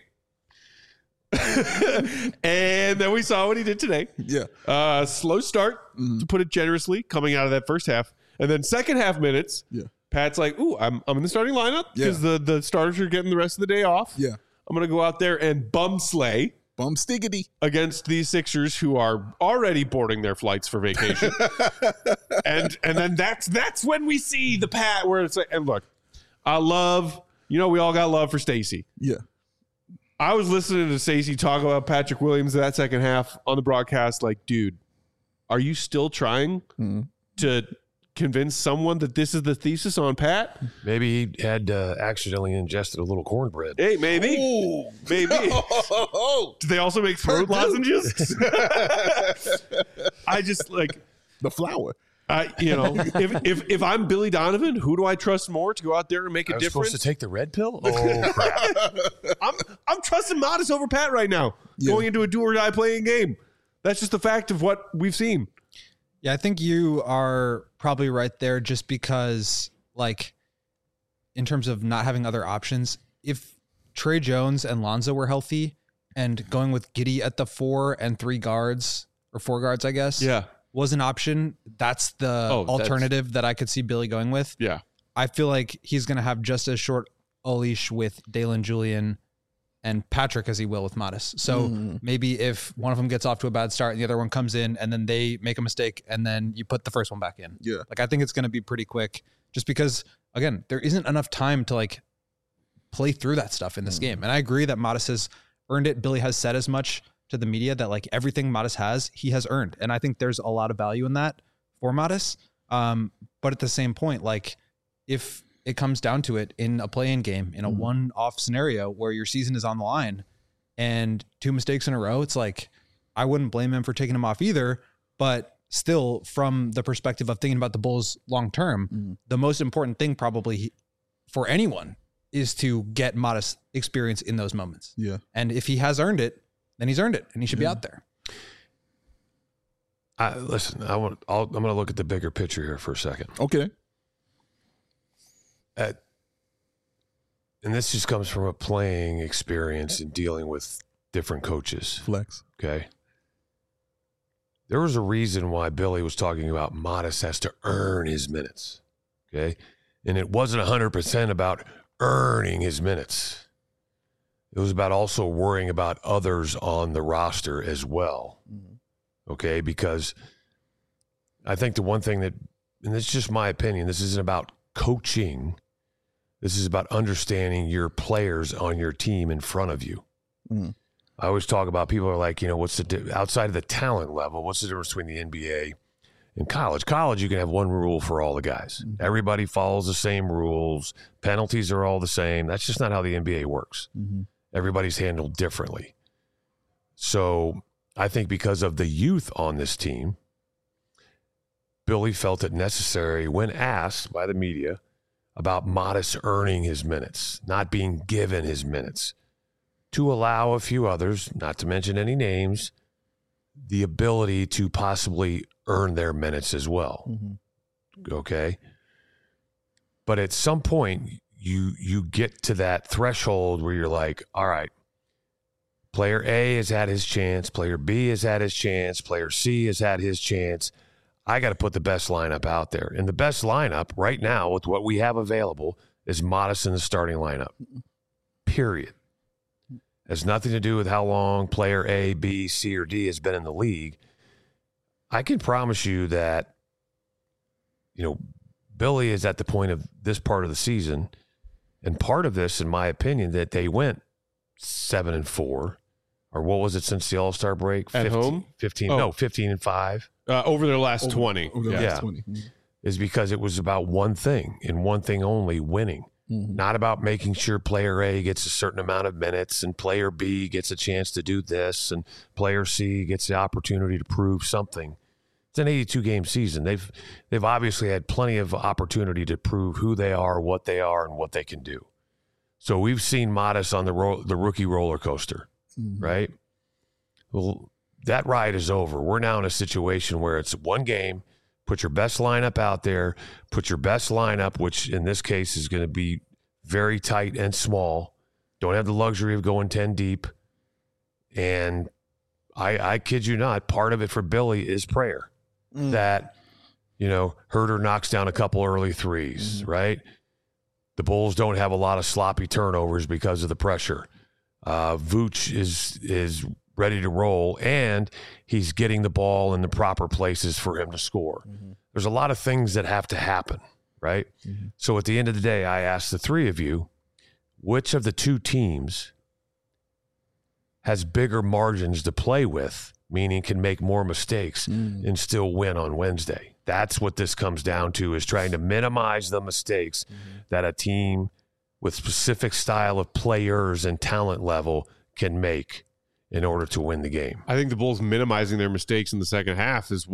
And then we saw what he did today. Yeah, uh, slow start mm-hmm. to put it generously, coming out of that first half, and then second half minutes. Yeah, Pat's like, ooh, I'm I'm in the starting lineup because yeah. the the starters are getting the rest of the day off. Yeah, I'm gonna go out there and bum slay. Bum stiggity against these Sixers who are already boarding their flights for vacation. and and then that's that's when we see the Pat where it's like, and look, I love, you know, we all got love for Stacey. Yeah. I was listening to Stacey talk about Patrick Williams that second half on the broadcast, like, dude, are you still trying mm. to convince someone that this is the thesis on Pat? Maybe he had uh, accidentally ingested a little cornbread. Hey, maybe. Ooh. Maybe. Do they also make throat lozenges? I just like the flour. Uh, you know, if, if if I'm Billy Donovan, who do I trust more to go out there and make a I was difference? supposed to take the red pill? Oh, crap. I'm I'm trusting Modest over Pat right now, Yeah. going into a do or die playing game. That's just the fact of what we've seen. Yeah, I think you are probably right there just because, like, in terms of not having other options, if Trey Jones and Lonzo were healthy and going with Giddey at the four and three guards, or four guards, I guess, Yeah, was an option, that's the Oh, that's- alternative that I could see Billy going with. yeah. I feel like he's going to have just as short a leash with Dalen Julian and Patrick as he will with Modest. So Mm. maybe if one of them gets off to a bad start and the other one comes in and then they make a mistake and then you put the first one back in. Yeah. Like, I think it's going to be pretty quick just because, again, there isn't enough time to like play through that stuff in this Mm. game. And I agree that Modest has earned it. Billy has said as much to the media that like everything Modest has, he has earned. And I think there's a lot of value in that for Modest. Um, but at the same point, like if it comes down to it in a play-in game, in a Mhm. one-off scenario where your season is on the line and two mistakes in a row, it's like, I wouldn't blame him for taking him off either, but still from the perspective of thinking about the Bulls long-term, Mhm. the most important thing probably for anyone is to get Modest experience in those moments. Yeah. And if he has earned it, then he's earned it and he should be Yeah. out there. I, listen, I want. I'll, I'm going to look at the bigger picture here for a second. Okay. At, and this just comes from a playing experience and dealing with different coaches. Flex. Okay. There was a reason why Billy was talking about Modest has to earn his minutes. Okay. And it wasn't one hundred percent about earning his minutes. It was about also worrying about others on the roster as well. Mhm. Okay. Because I think the one thing that, and this is just my opinion, this isn't about coaching. This is about understanding your players on your team in front of you. Mhm. I always talk about people are like, you know, what's the di- outside of the talent level? What's the difference between the N B A and college? College, you can have one rule for all the guys. Mhm. Everybody follows the same rules. Penalties are all the same. That's just not how the N B A works. Mhm. Everybody's handled differently. So I think because of the youth on this team, Billy felt it necessary when asked by the media about Modest earning his minutes, not being given his minutes, to allow a few others, not to mention any names, the ability to possibly earn their minutes as well. Mhm. Okay. But at some point, you you get to that threshold where you're like, all right, player A has had his chance, player B has had his chance, player C has had his chance. I got to put the best lineup out there. And the best lineup right now with what we have available is Modest in the starting lineup. Period. Has nothing to do with how long player A, B, C, or D has been in the league. I can promise you that, you know, Billy is at the point of this part of the season, and part of this, in my opinion, that they went seven and four, or what was it since the All-Star break? At fifteen, home? fifteen, Oh. no, fifteen and five. Uh, over their last Over- twenty. over the yeah. Yeah. last twenty. Mhm. Is because it was about one thing and one thing only, winning. Mhm. Not about making sure player A gets a certain amount of minutes and player B gets a chance to do this and player C gets the opportunity to prove something. It's an eighty-two game season. They've they've obviously had plenty of opportunity to prove who they are, what they are, and what they can do. So we've seen Modest on the ro- the rookie roller coaster, Mhm. right? Well, that ride is over. We're now in a situation where it's one game. Put your best lineup out there. Put your best lineup, which in this case is going to be very tight and small. Don't have the luxury of going ten deep. And I, I kid you not, part of it for Billy is prayer. Mm. That, you know, Herter knocks down a couple early threes, Mhm. right? The Bulls don't have a lot of sloppy turnovers because of the pressure. Uh, Vooch is is ready to roll, and he's getting the ball in the proper places for him to score. Mhm. There's a lot of things that have to happen, right? Mhm. So at the end of the day, I ask the three of you, which of the two teams has bigger margins to play with, meaning can make more mistakes Mm. and still win on Wednesday? That's what this comes down to, is trying to minimize the mistakes that a team with specific style of players and talent level can make in order to win the game. I think the Bulls minimizing their mistakes in the second half is what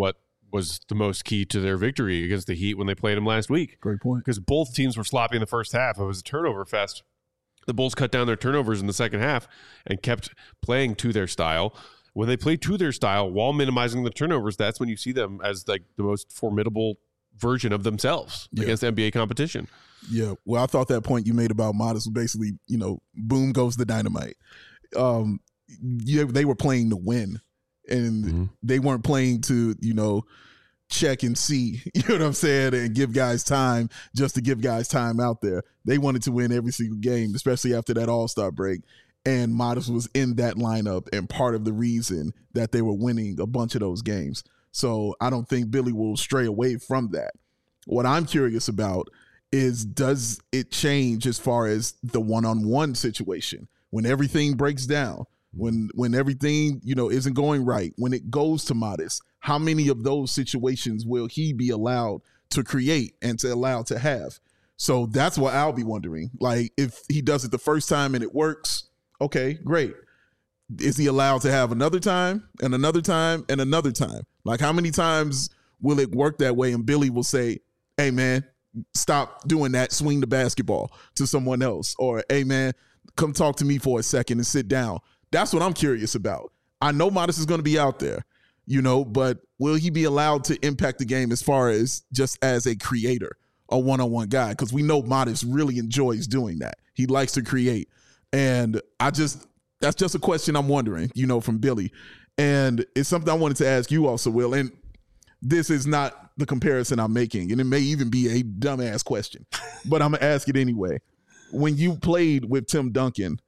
was the most key to their victory against the Heat when they played them last week. Great point. Because both teams were sloppy in the first half. It was a turnover fest. The Bulls cut down their turnovers in the second half and kept playing to their style. When they play to their style while minimizing the turnovers, that's when you see them as like the most formidable version of themselves yeah. against N B A competition. Yeah. Well, I thought that point you made about Modest was basically, you know, boom goes the dynamite. Um, yeah, they were playing to win, and mm-hmm. they weren't playing to, you know, check and see, you know what I'm saying, and give guys time just to give guys time out there. They wanted to win every single game, especially after that All-Star break. And Modest was in that lineup and part of the reason that they were winning a bunch of those games. So I don't think Billy will stray away from that. What I'm curious about is, does it change as far as the one-on-one situation? When everything breaks down, when when everything, you know, isn't going right, when it goes to Modest, how many of those situations will he be allowed to create and to allow to have? So that's what I'll be wondering. Like, if he does it the first time and it works, okay, great. Is he allowed to have another time and another time and another time? Like, how many times will it work that way and Billy will say, hey, man, stop doing that, swing the basketball to someone else? Or, hey, man, come talk to me for a second and sit down. That's what I'm curious about. I know Modest is going to be out there, you know, but will he be allowed to impact the game as far as just as a creator, a one-on-one guy? Because we know Modest really enjoys doing that. He likes to create. And I just, that's just a question I'm wondering, you know, from Billy. And it's something I wanted to ask you also, Will. And this is not the comparison I'm making, and it may even be a dumbass question, but I'm going to ask it anyway. When you played with Tim Duncan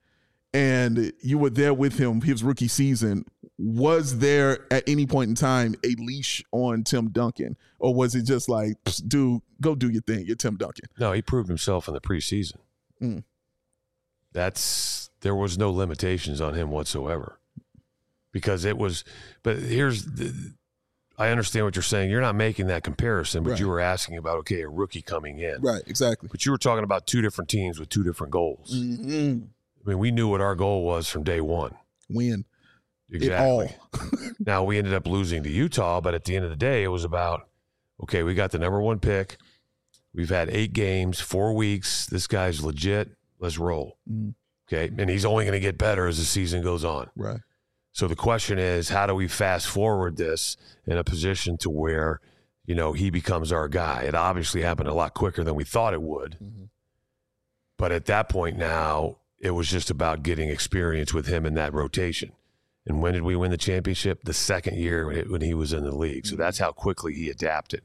and you were there with him his rookie season, was there at any point in time a leash on Tim Duncan? Or was it just like, dude, go do your thing, you're Tim Duncan? No, he proved himself in the preseason. Mm. That's, there was no limitations on him whatsoever. Because it was, but here's, the, I understand what you're saying. You're not making that comparison, but right. you were asking about, okay, a rookie coming in. Right, exactly. But you were talking about two different teams with two different goals. Mm-hmm. I mean, we knew what our goal was from day one. Win. Exactly. It all. Now, we ended up losing to Utah, but at the end of the day, it was about, okay, we got the number one pick. We've had eight games, four weeks. This guy's legit. Let's roll. Mm. Okay, and he's only going to get better as the season goes on. Right. So the question is, how do we fast forward this in a position to where, you know, he becomes our guy? It obviously happened a lot quicker than we thought it would. Mm-hmm. But at that point now, it was just about getting experience with him in that rotation. And when did we win the championship? The second year when he was in the league. So that's how quickly he adapted.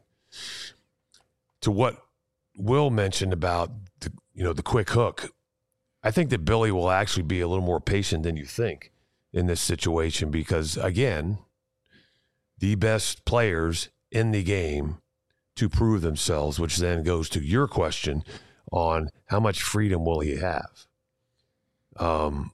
To what Will mentioned about the, you know, the quick hook, I think that Billy will actually be a little more patient than you think in this situation because, again, the best players in the game to prove themselves, which then goes to your question on how much freedom will he have. Um,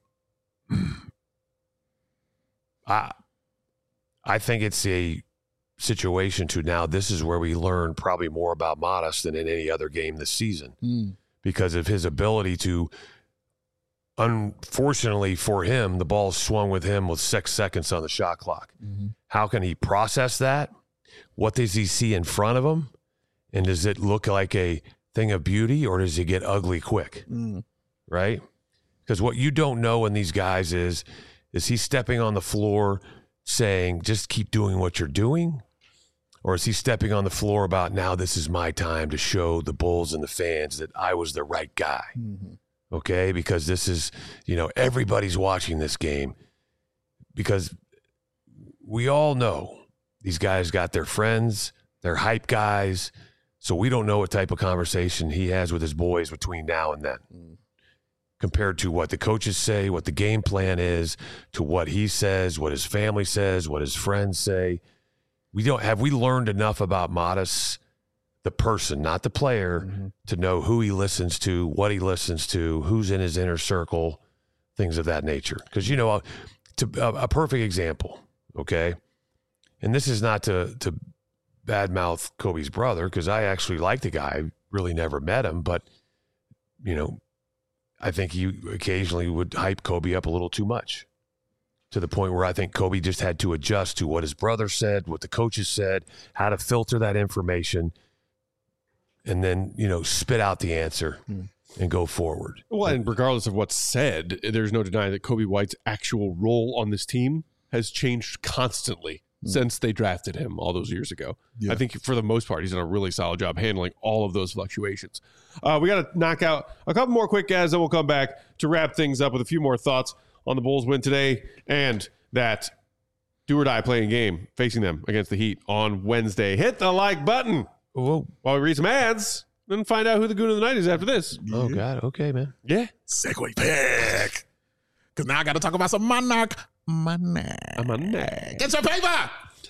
I, I think it's a situation to now this is where we learn probably more about Modest than in any other game this season mm. because of his ability to, unfortunately for him, the ball swung with him with six seconds on the shot clock. Mm-hmm. How can he process that? What does he see in front of him? And does it look like a thing of beauty or does it get ugly quick? Mm. Right? Because what you don't know in these guys is, is he stepping on the floor saying, just keep doing what you're doing? Or is he stepping on the floor about, now this is my time to show the Bulls and the fans that I was the right guy? Mm-hmm. Okay, because this is, you know, everybody's watching this game because we all know these guys got their friends, they're hype guys, so we don't know what type of conversation he has with his boys between now and then mm. compared to what the coaches say, what the game plan is, to what he says, what his family says, what his friends say. We don't have we learned enough about Modest, the person, not the player, mm-hmm. to know who he listens to, what he listens to, who's in his inner circle, things of that nature. Because, you know, to, a, a perfect example, okay? And this is not to, to badmouth Kobe's brother, because I actually like the guy. I really never met him, but, you know, I think he occasionally would hype Kobe up a little too much. to the point where I think Kobe just had to adjust to what his brother said, what the coaches said, how to filter that information, and then, you know, spit out the answer mm. and go forward. Well, and regardless of what's said, there's no denying that Kobe White's actual role on this team has changed constantly mm. since they drafted him all those years ago. Yeah. I think for the most part, he's done a really solid job handling all of those fluctuations. Uh, we got to knock out a couple more quick guys, then we'll come back to wrap things up with a few more thoughts on the Bulls win today and that do or die playing game facing them against the Heat on Wednesday. Hit the like button. Whoa. While we read some ads, then find out who the goon of the night is after this. Oh, God. Okay, man. Yeah. Segue pick. Because now I got to talk about some Monarch money. Money. Get your paper.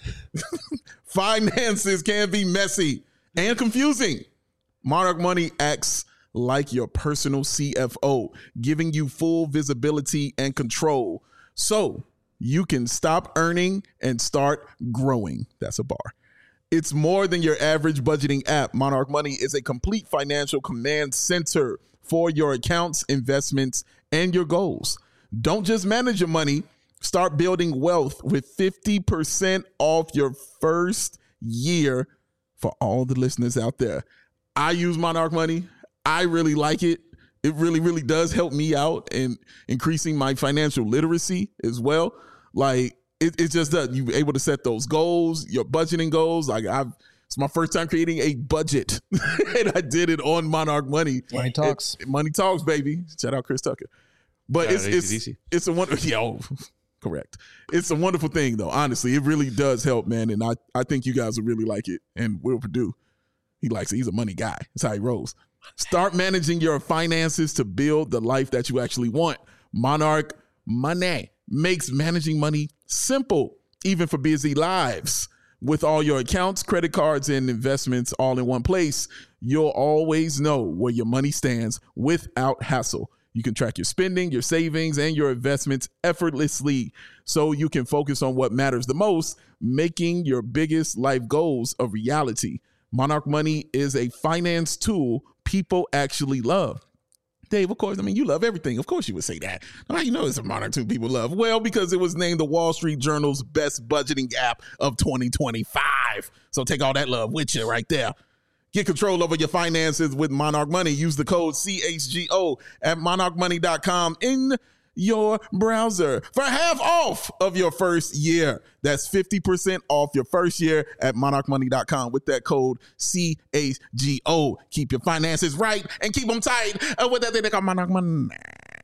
Finances can be messy and confusing. Monarch Money acts like your personal C F O, giving you full visibility and control so you can stop earning and start growing. That's a bar. It's more than your average budgeting app. Monarch Money is a complete financial command center for your accounts, investments, and your goals. Don't just manage your money. Start building wealth with fifty percent off your first year for all the listeners out there. I use Monarch Money. I really like it. It really, really does help me out in increasing my financial literacy as well. Like, It, it just does. You're able to set those goals, your budgeting goals. Like I've, it's my first time creating a budget, and I did it on Monarch Money. Money talks, it, money talks, baby. Shout out Chris Tucker. But Shout it's it's it's a wonderful. Yeah, correct. It's a wonderful thing, though. Honestly, it really does help, man. And I I think you guys will really like it. And Will Perdue, he likes it. He's a money guy. That's how he rolls. Start managing your finances to build the life that you actually want. Monarch Money makes managing money simple, even for busy lives. With all your accounts, credit cards, and investments all in one place, you'll always know where your money stands without hassle. You can track your spending, your savings, and your investments effortlessly so you can focus on what matters the most, making your biggest life goals a reality. Monarch Money is a finance tool people actually love. Dave, of course, I mean, you love everything. Of course you would say that. How you know it's a Monarch two people love? Well, because it was named the Wall Street Journal's best budgeting app of twenty twenty-five. So take all that love with you right there. Get control over your finances with Monarch Money. Use the code C H G O at monarch money dot com in your browser for half off of your first year. That's fifty percent off your first year at monarch money dot com with that code C H G O. Keep your finances right and keep them tight uh, with that thing they call Monarch Money.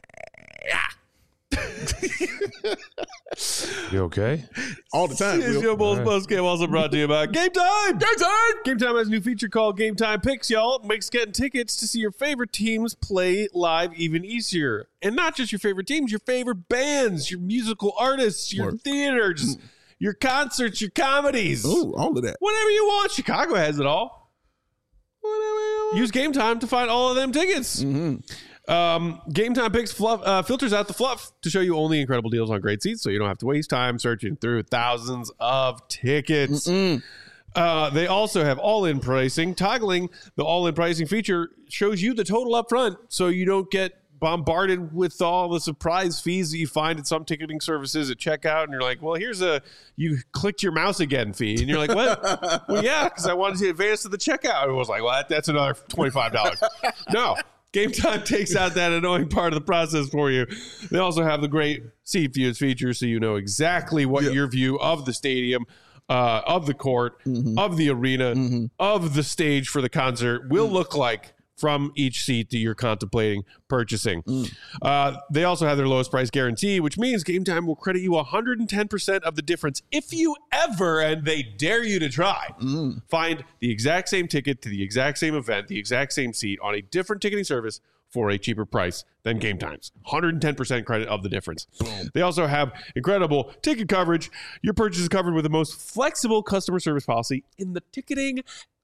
You okay? All the time. It's your Bulls post game, also brought to you by Game Time. Game Time. Game Time has a new feature called Game Time Picks, y'all. It makes getting tickets to see your favorite teams play live even easier. And not just your favorite teams, your favorite bands, your musical artists, your Work. theaters, your concerts, your comedies. Ooh, all of that. Whatever you want. Chicago has it all. Whatever you want. Use Game Time to find all of them tickets. Mm-hmm. Um, Game Time Picks fluff, uh, filters out the fluff to show you only incredible deals on great seats, so you don't have to waste time searching through thousands of tickets. Uh, they also have all-in pricing. Toggling the all-in pricing feature shows you the total up front, so you don't get bombarded with all the surprise fees that you find at some ticketing services at checkout, and you're like, well, here's a you clicked your mouse again fee, and you're like, what? Well, yeah, because I wanted to advance to the checkout. It was like, well, that, that's another twenty-five dollars. No. Game Time takes out that annoying part of the process for you. They also have the great seat views feature, so you know exactly what yeah. your view of the stadium, uh, of the court, mm-hmm. of the arena, mm-hmm. of the stage for the concert will mm. look like from each seat that you're contemplating purchasing. Mm. Uh, they also have their lowest price guarantee, which means Game Time will credit you one hundred ten percent of the difference if you ever, and they dare you to try, mm. find the exact same ticket to the exact same event, the exact same seat on a different ticketing service for a cheaper price than Game Time's. one hundred ten percent credit of the difference. Boom. They also have incredible ticket coverage. Your purchase is covered with the most flexible customer service policy in the ticketing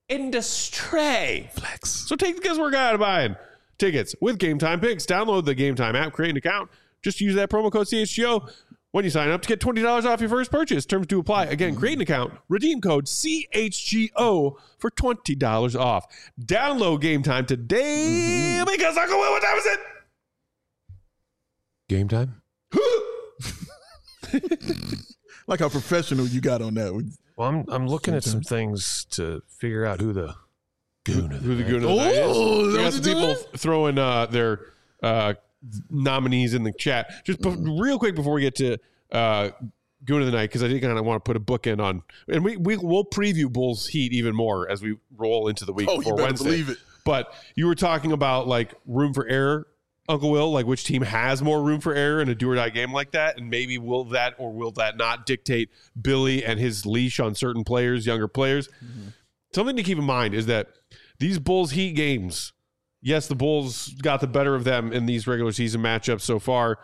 industry. Flex. So take the guesswork out of buying tickets with Game Time Picks. Download the Game Time app, create an account. Just use that promo code C H G O when you sign up to get twenty dollars off your first purchase. Terms do apply. Again, create an account. Redeem code C H G O for twenty dollars off. Download Game Time today mm-hmm. because Uncle Will, what time is it? Game time? Like how professional you got on that. Well, I'm I'm looking at some things to figure out who the goon of the Who the night. goon of the night is. Oh, We got that's some people throwing uh, their uh, nominees in the chat. Just be- real quick before we get to uh, goon of the night, because I think I want to put a bookend on, and we, we we'll preview Bulls Heat even more as we roll into the week Oh, you before better Wednesday. believe it. But you were talking about like room for error, Uncle Will, like which team has more room for error in a do or die game like that, and maybe will that or will that not dictate Billy and his leash on certain players, younger players. Mm-hmm. Something to keep in mind is that these Bulls Heat games, yes, the Bulls got the better of them in these regular season matchups so far.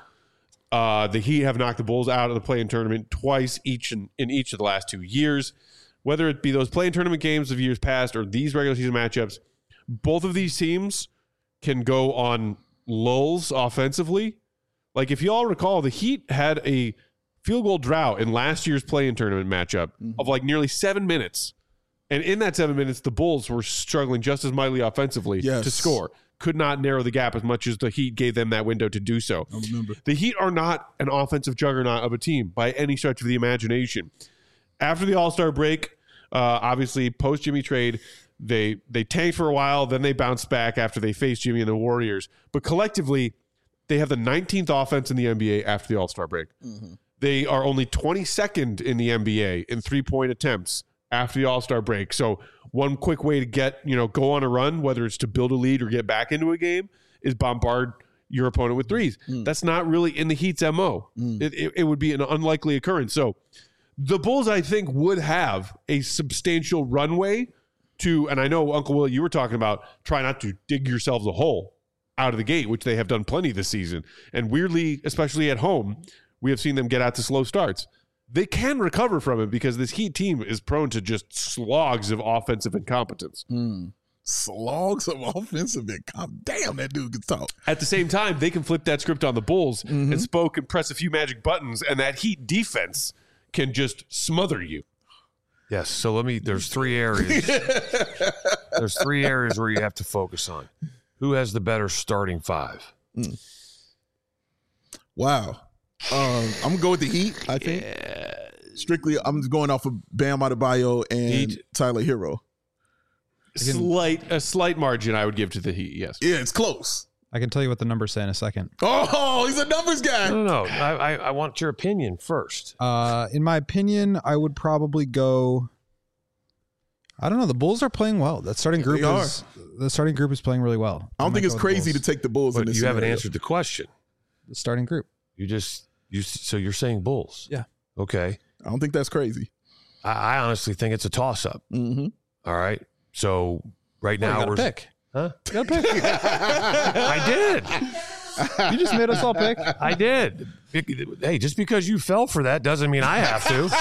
Uh, the Heat have knocked the Bulls out of the play-in tournament twice each in, in each of the last two years. Whether it be those play-in tournament games of years past or these regular season matchups, both of these teams can go on lulls offensively. Like if you all recall, the Heat had a field goal drought in last year's play-in tournament matchup mm-hmm. of like nearly seven minutes. And in that seven minutes, the Bulls were struggling just as mightily offensively yes. to score. Could not narrow the gap as much as the Heat gave them that window to do so. I remember. The Heat are not an offensive juggernaut of a team by any stretch of the imagination. After the All-Star break, uh, obviously post-Jimmy trade, they they tanked for a while, then they bounced back after they faced Jimmy and the Warriors. But collectively, they have the nineteenth offense in the N B A after the All-Star break. Mm-hmm. They are only twenty-second in the N B A in three-point attempts after the All-Star break. So one quick way to get, you know, go on a run, whether it's to build a lead or get back into a game, is bombard your opponent with threes. Mm. That's not really in the Heat's M O. Mm. It, it, it would be an unlikely occurrence. So the Bulls, I think, would have a substantial runway to, and I know, Uncle Will, you were talking about try not to dig yourselves a hole out of the gate, which they have done plenty this season. And weirdly, especially at home, we have seen them get out to slow starts. They can recover from it because this Heat team is prone to just slogs of offensive incompetence. Mm. Slogs of offensive incompetence. Damn, that dude can talk. At the same time, they can flip that script on the Bulls mm-hmm. and Spo can press a few magic buttons, and that Heat defense can just smother you. Yes. So let me, there's three areas. There's three areas where you have to focus on. Who has the better starting five? Mm. Wow. Um, I'm gonna go with the Heat. I think yeah. strictly, I'm just going off of Bam Adebayo and Heat. Tyler Hero. Slight, a slight margin I would give to the Heat. Yes. Yeah, it's close. I can tell you what the numbers say in a second. Oh, he's a numbers guy. No, no, no. I, I, I want your opinion first. Uh, in my opinion, I would probably go. I don't know. The Bulls are playing well. That starting group they is are. the starting group is playing really well. I don't I think it's crazy to take the Bulls. But in this you scenario. haven't answered the question. The starting group. You just you. So you're saying Bulls? Yeah. Okay. I don't think that's crazy. I, I honestly think it's a toss up. Mm-hmm. All right. So right well, now you we're pick. Huh? You gotta pick. I did. You just made us all pick. I did. Hey, just because you fell for that doesn't mean I have to.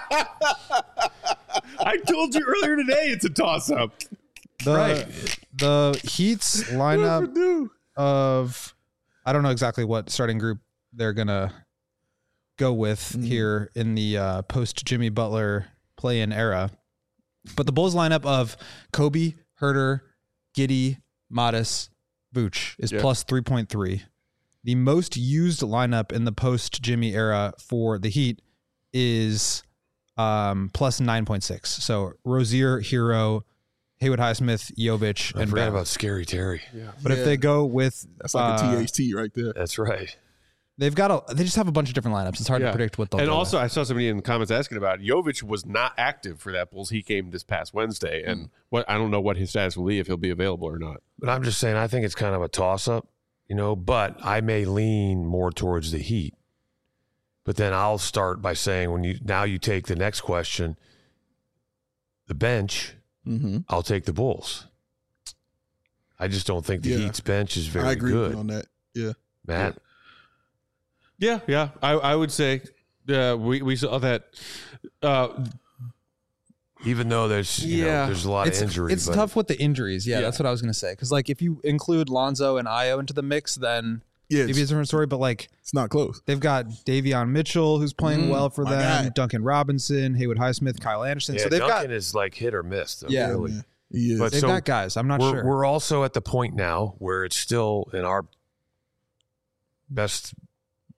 I told you earlier today it's a toss-up. The, right. The Heat's lineup of, I don't know exactly what starting group they're going to go with mm-hmm. here in the uh, post-Jimmy Butler play-in era. But the Bulls lineup of Kobe, Herter, Giddey, Modis, Vooch is yeah. plus three point three. The most used lineup in the post-Jimmy era for the Heat is um, plus nine point six. So Rozier, Hero, Haywood Highsmith, Jovic, I and forgot Bam. about Scary Terry. Yeah. But yeah. if they go with... That's like uh, a T H T right there. That's right. They've got a, they just have a bunch of different lineups. It's hard yeah. to predict what they'll and do. And also, I saw somebody in the comments asking about it. Jovic was not active for that Bulls Heat game this past Wednesday, and mm. what I don't know what his status will be, if he'll be available or not. But I'm just saying, I think it's kind of a toss-up, you know, but I may lean more towards the Heat. But then I'll start by saying, when you now you take the next question, the bench, mm-hmm. I'll take the Bulls. I just don't think the yeah. Heat's bench is very I agree good. on that. Yeah. Matt? Yeah, yeah. I, I would say uh, we, we saw that. Uh, Even though there's you yeah. know, there's a lot it's, of injuries. It's but tough with the injuries. Yeah, yeah. that's what I was going to say. Because, like, if you include Lonzo and Ayo into the mix, then yeah, maybe it's a different story. But, like, it's not close. They've got Davion Mitchell, who's playing mm, well for them, guy. Duncan Robinson, Haywood Highsmith, Kyle Anderson. Yeah, so they've Duncan got, is like hit or miss. Though, yeah, really. Yeah. He is. But they've so got guys. I'm not we're, sure. We're also at the point now where it's still in our best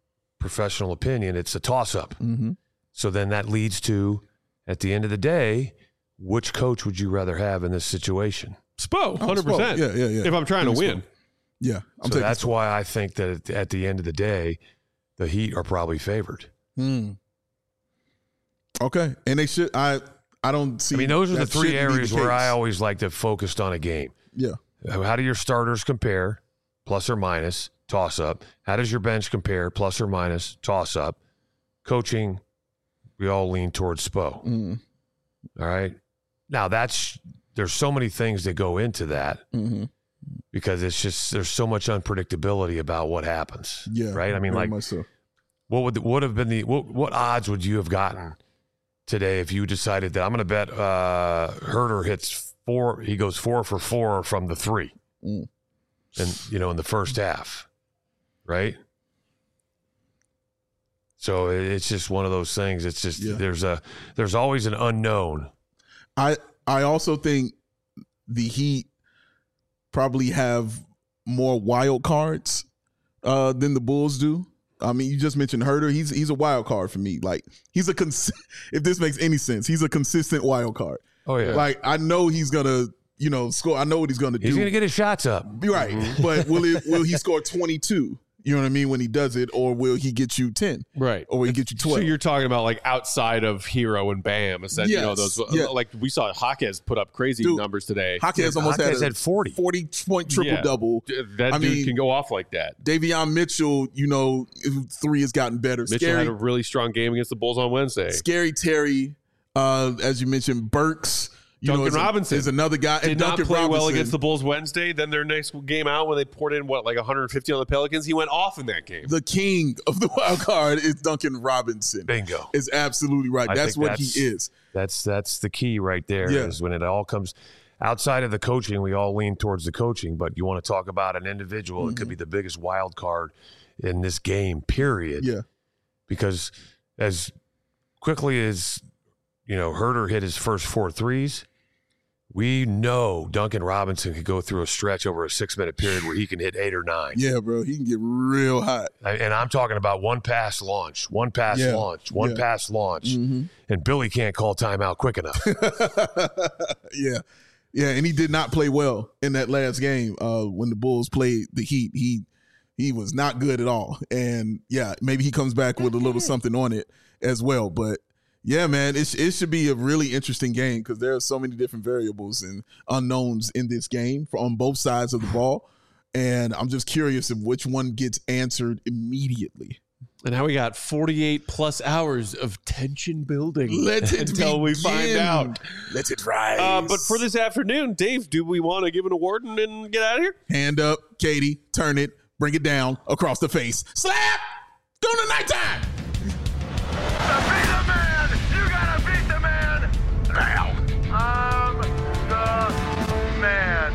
professional opinion, it's a toss-up. Mm-hmm. So then that leads to, at the end of the day, which coach would you rather have in this situation? Spo, one hundred percent. Yeah, yeah, yeah. If I'm trying to win. Spo. Yeah. I'm so that's Spo. Why I think that at the end of the day, the Heat are probably favored. Hmm. Okay. And they should, I I don't see. I mean, those are the three areas the where I always like to focus on a game. Yeah. How do your starters compare, plus or minus, toss up? How does your bench compare, plus or minus, toss up? Coaching, we all lean towards Spo. Mm. All right. Now that's, there's so many things that go into that mm-hmm. because it's just, there's so much unpredictability about what happens. Yeah. Right. I mean, like, so. what would, would have been the, what, what odds would you have gotten today if you decided that I'm going to bet uh, Herter hits four, he goes four for four from the three, mm. and you know, in the first half, right? So it's just one of those things. It's just yeah. there's a there's always an unknown. I I also think the Heat probably have more wild cards uh, than the Bulls do. I mean, you just mentioned Herter. He's he's a wild card for me. Like he's a cons- if this makes any sense, he's a consistent wild card. Oh yeah. Like I know he's gonna, you know, score. I know what he's gonna do. He's gonna get his shots up. Right. Mm-hmm. But will it will he score twenty-two? You know what I mean, when he does it, or will he get you ten? Right. Or will he get you twelve? So you're talking about like outside of Hero and Bam. Is that, yes. you know, those yeah. like we saw Jaquez put up crazy dude, numbers today. Jaquez almost Jaquez had, had forty. forty point triple yeah. double. That I dude mean, can go off like that. Davion Mitchell, you know, three has gotten better. Mitchell Scary, had a really strong game against the Bulls on Wednesday. Scary Terry, uh, as you mentioned, Burks. You Duncan know, is Robinson a, is another guy. Did and not Duncan play Robinson, well against the Bulls Wednesday. Then their next game out when they poured in, what, like one hundred fifty on the Pelicans, he went off in that game. The king of the wild card is Duncan Robinson. Bingo. Is absolutely right. I That's what that's, he is. That's that's the key right there yeah. is when it all comes outside of the coaching, we all lean towards the coaching, but you want to talk about an individual, mm-hmm. it could be the biggest wild card in this game, period. Yeah. Because as quickly as, you know, Herter hit his first four threes, we know Duncan Robinson could go through a stretch over a six-minute period where he can hit eight or nine. Yeah, bro. He can get real hot. And I'm talking about one pass launch, one pass yeah. launch, one yeah. pass launch. Mm-hmm. And Billy can't call timeout quick enough. yeah. Yeah, and he did not play well in that last game uh, when the Bulls played the Heat. He he was not good at all. And, yeah, maybe he comes back with a little something on it as well. But, yeah, man, it, it should be a really interesting game because there are so many different variables and unknowns in this game for, on both sides of the ball. And I'm just curious of which one gets answered immediately. And now we got forty-eight plus hours of tension building Let it until begin. we find out. Let it rise. Uh, but for this afternoon, Dave, do we want to give an award and, and get out of here? Hand up, Katie, turn it, bring it down across the face. Slap! Doing the nighttime! To be the man, you gotta beat the man. Now, I'm the man.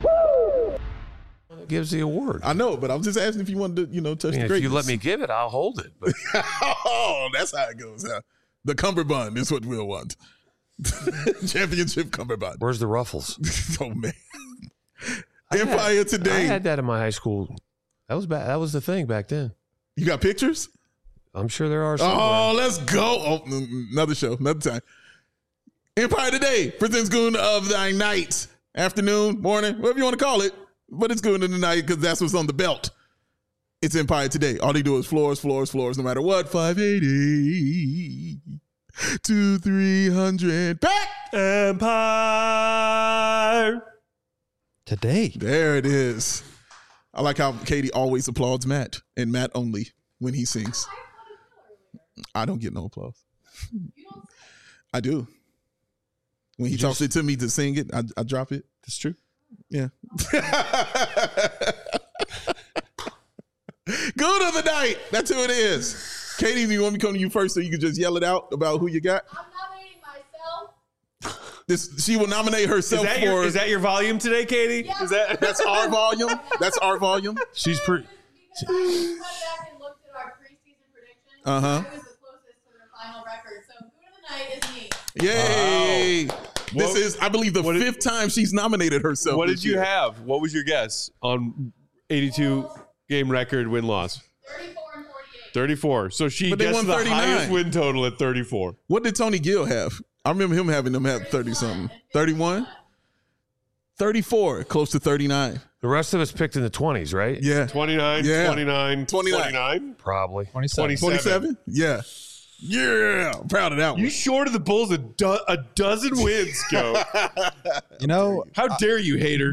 Gives the award. I know, but I'm just asking if you wanted to, you know, touch I mean, the if greatness. you let me give it, I'll hold it. But. Oh, that's how it goes. Huh? The cummerbund is what we'll want. Championship cummerbund. Where's the ruffles? Oh, man. I Empire had, Today. I had that in my high school. That was back, that was the thing back then. You got pictures? I'm sure there are somewhere. Oh, let's go. Oh, another show, another time. Empire Today presents Goon of the Night. Afternoon, morning, whatever you want to call it. But it's Goon of the Night because that's what's on the belt. It's Empire Today. All they do is floors, floors, floors, no matter what. five eighty to three hundred. Back! Empire Today. There it is. I like how Katie always applauds Matt, and Matt only when he sings. I don't get no applause. I do. When he You talks just- it to me to sing it, I, I drop it. That's true. Yeah. Good of the night. That's who it is. Katie, do you want me to come to you first so you can just yell it out about who you got? I'm nominating myself. This she will nominate Is herself that, for. your, is that your volume today, Katie? Yeah. Is that That's our volume. That's our volume. She's pretty. Because I went back and looked at our preseason predictions. Uh-huh. I was the closest to their final record. So Goon of the Night is me. Yay! Wow. This What- is, I believe, the what did- fifth time she's nominated herself. What this did you year. have? What was your guess on eighty-two game record win loss? thirty-four and forty-eight. thirty-four. So she But they gets won the thirty-nine. highest win total at thirty-four. What did Tony Gill have? I remember him having them have thirty-something. thirty-one? thirty-four, close to thirty-nine. The rest of us picked in the twenties, right? Yeah. twenty-nine, Yeah. twenty-nine, twenty-nine. twenty-nine. Probably. twenty-seven. twenty-seven? Yeah. Yeah. I'm proud of that one. You shorted the Bulls a, do- a dozen wins, Joe. You know, How dare you, hater?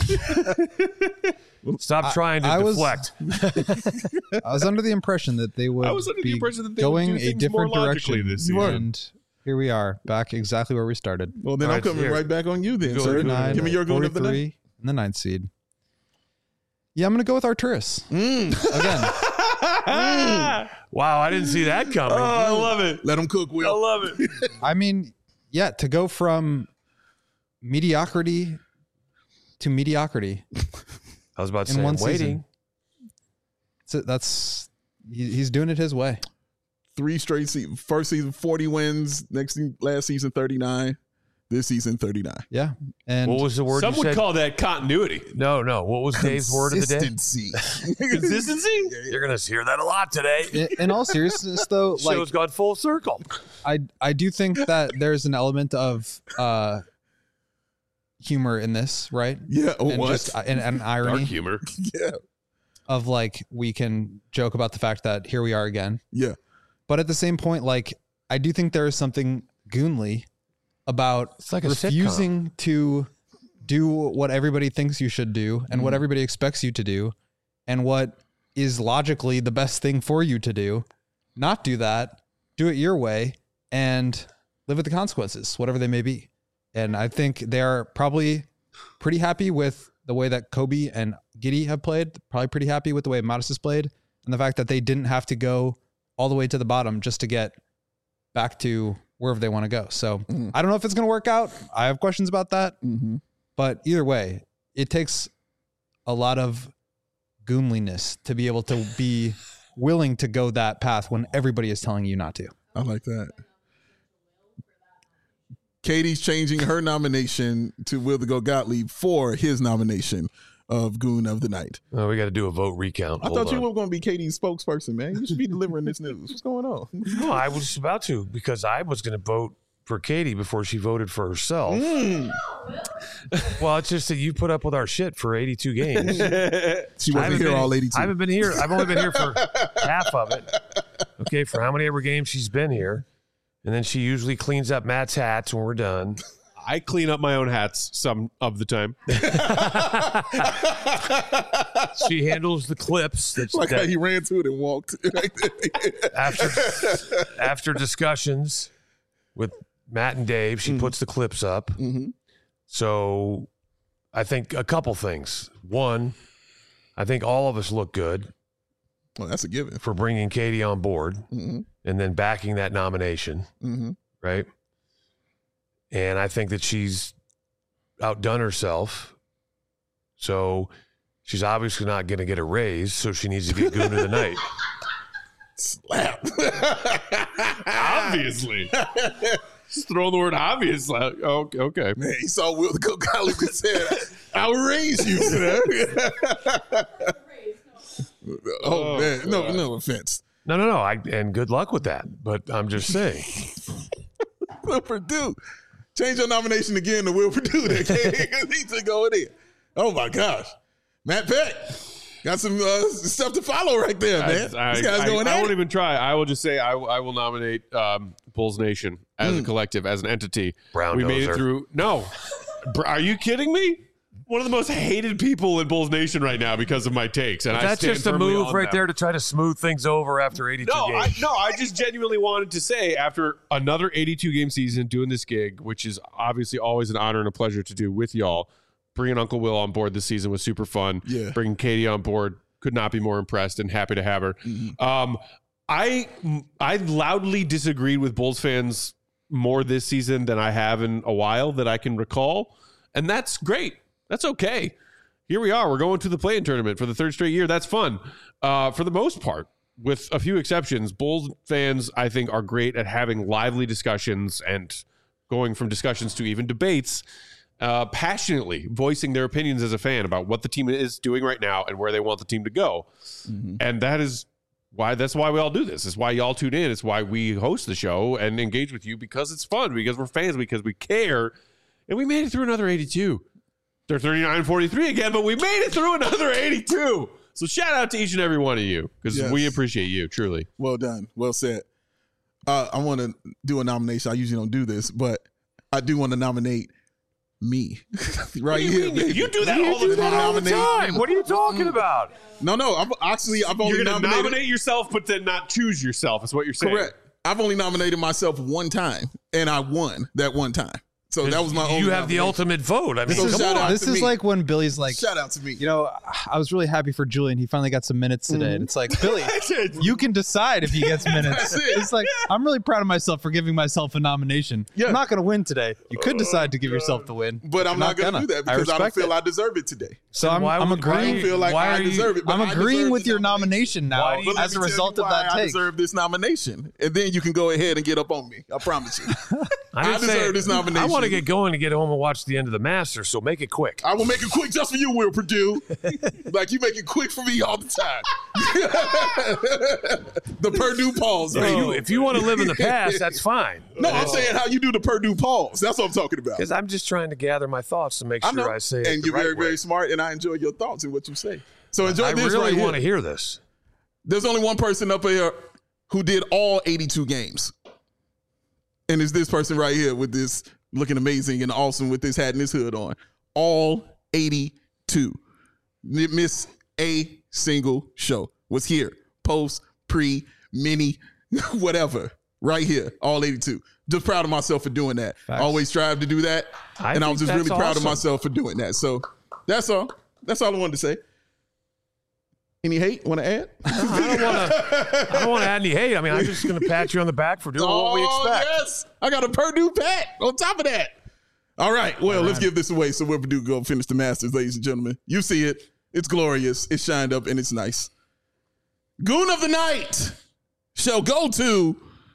Stop trying to I was- deflect. I was under the impression that they would I was under the be impression that they would going do a things different more logically direction. this season. And here we are, back exactly where we started. Well, then All I'm right, coming here. right back on you then, Go sir. ahead, go ahead. Give me your goon of the night. forty-three and the ninth seed. Yeah, I'm going to go with Arturis. Mm. Again, Wow, I didn't see that coming. Oh, I love it. Let him cook, I Will. love it. I mean, yeah, to go from mediocrity to mediocrity. I was about to In say, one I'm waiting. season. So that's he, he's doing it his way. Three straight seasons. First season, forty wins. Next season, last season, thirty-nine. This season, thirty-nine. Yeah. And What was the word Some you would said? call that continuity. no, no. What was Dave's word of the day? Consistency. Consistency? You're going to hear that a lot today. in, in all seriousness, though, like Show's gone full circle. I I do think that there's an element of uh humor in this, right? Yeah. Oh, And what? just uh, and, and Dark irony humor. yeah. of like we can joke about the fact that here we are again. Yeah. But at the same point, like I do think there is something goonly about It's like a refusing to do what everybody thinks you should do and what everybody expects you to do and what is logically the best thing for you to do. Not do that, do it your way and live with the consequences, whatever they may be. And I think they're probably pretty happy with the way that Kobe and Giddey have played, probably pretty happy with the way Modest has played and the fact that they didn't have to go all the way to the bottom just to get back to wherever they want to go. So Mm. I don't know if it's going to work out. I have questions about that. Mm-hmm. But either way, it takes a lot of goonliness to be able to be willing to go that path when everybody is telling you not to. I like that. Katie's changing her nomination to Will the Go Gottlieb for his nomination of Goon of the Night. Oh, we got to do a vote recount. I Hold thought you on. were going to be Katie's spokesperson, man. You should be delivering this news. What's going on? No, I was about to because I was going to vote for Katie before she voted for herself. Mm. Well, it's just that you put up with our shit for eighty-two games. She I wasn't haven't here been- all I eighty-two. haven't been here. I've only been here for half of it. Okay, for how many ever games she's been here. And then she usually cleans up Matt's hats when we're done. I clean up my own hats some of the time. She handles the clips that, Like how that he ran to it and walked. after after discussions with Matt and Dave, she puts the clips up. Mhm. So I think a couple things. One, I think all of us look good Well, that's a given. for bringing Katie on board Mm-hmm. and then backing that nomination, Mm-hmm. right? And I think that she's outdone herself. So she's obviously not going to get a raise, so she needs to get Goon of the Night. Slap. Obviously. Just throw the word obvious. out. Oh, okay. Man, he saw Will the Go Gottlieb and said, I'll raise you. oh, Oh, man. No, God. no offense. No, no, no. I, and good luck with that. But I'm just saying. Will Purdue. Change your nomination again to Will Purdue there, because he took over there. Oh, my gosh. Matt Peck. Got some uh, stuff to follow right there, man. I, this guy's I, going I, at I won't it. even try. I will just say I, I will nominate um, Bulls Nation as a collective, as an entity. Brown we made noser. it through. No. Br- Are you kidding me? One of the most hated people in Bulls Nation right now because of my takes. And I That's stand just a firmly move on right them. there to try to smooth things over after eighty-two No, I, games. no, I just genuinely wanted to say after another eighty-two game season doing this gig, which is obviously always an honor and a pleasure to do with y'all, bringing Uncle Will on board this season was super fun. Yeah. Bringing Katie on board, could not be more impressed and happy to have her. Mm-hmm. Um, I I loudly disagreed with Bulls fans more this season than I have in a while that I can recall, and that's great. That's okay. Here we are. We're going to the play-in tournament for the third straight year. That's fun. Uh, for the most part, with a few exceptions, Bulls fans, I think, are great at having lively discussions and going from discussions to even debates, uh, passionately voicing their opinions as a fan about what the team is doing right now and where they want the team to go. Mm-hmm. And that is why that's why we all do this. It's why y'all tune in. It's why we host the show and engage with you, because it's fun, because we're fans, because we care. And we made it through another eighty-two. They're thirty-nine forty-three again, but we made it through another eighty-two. So shout out to each and every one of you, because Yes. we appreciate you, truly. Well done. Well said. Uh, I want to do a nomination. I usually don't do this, but I do want to nominate me right here. baby. You do that You all the do time. that all the time. What are you talking about? No, no. I'm actually I've only You're going to nominated. nominate yourself, but then not choose yourself, is what you're saying. Correct. I've only nominated myself one time, and I won that one time. So that was my only. You have the nomination. ultimate vote. I mean, So come shout on. out This to is me. like when Billy's like, Shout out to me. you know, I was really happy for Julian. He finally got some minutes today. And it's like, Billy, you can decide if he gets minutes. That's it. It's like, I'm really proud of myself for giving myself a nomination. Yeah. I'm not going to win today. You could decide to give yourself the win. But I'm You're not, going to do that because I, don't respect feel it. I deserve it today. So I'm, why I'm would- why I agreeing. don't feel like Why I are you- deserve it. But I'm I agreeing deserve with the your nomination now But let as me a tell result you of why that I take. deserve this nomination, and then you can go ahead and get up on me. I promise you. I didn't say- deserve this nomination. I want to get going to get home and watch the end of the Masters, so make it quick. I will make it quick just for you, Will Purdue. Like you make it quick for me all the time. The Purdue pause, If baby. you, if you want to live in the past, that's fine. No, I'm saying how you do the Purdue pause. That's what I'm talking about. Because I'm just trying to gather my thoughts to make I sure know, I say it and the you're right very, way. very smart, and I enjoy your thoughts and what you say. So enjoy I this really right want to here. hear this. There's only one person up here who did all eighty-two games, and it's this person right here with this looking amazing and awesome with this hat and this hood on. All eighty-two. Didn't miss a single show. Was here. Post, pre, mini, whatever. Right here. All eighty-two. Just proud of myself for doing that. Facts. Always strive to do that. I and I think was just that's really proud of awesome. myself for doing that. So that's all. That's all I wanted to say. Any hate? Want to add? I don't want to. I don't want to add any hate. I mean, I'm just going to pat you on the back for doing what we expect. Oh, yes. I got a Purdue pat on top of that. All right. Well, let's give this away so Will Purdue go finish the Masters, ladies and gentlemen. You see it. It's glorious. It's shined up and it's nice. Goon of the night shall go to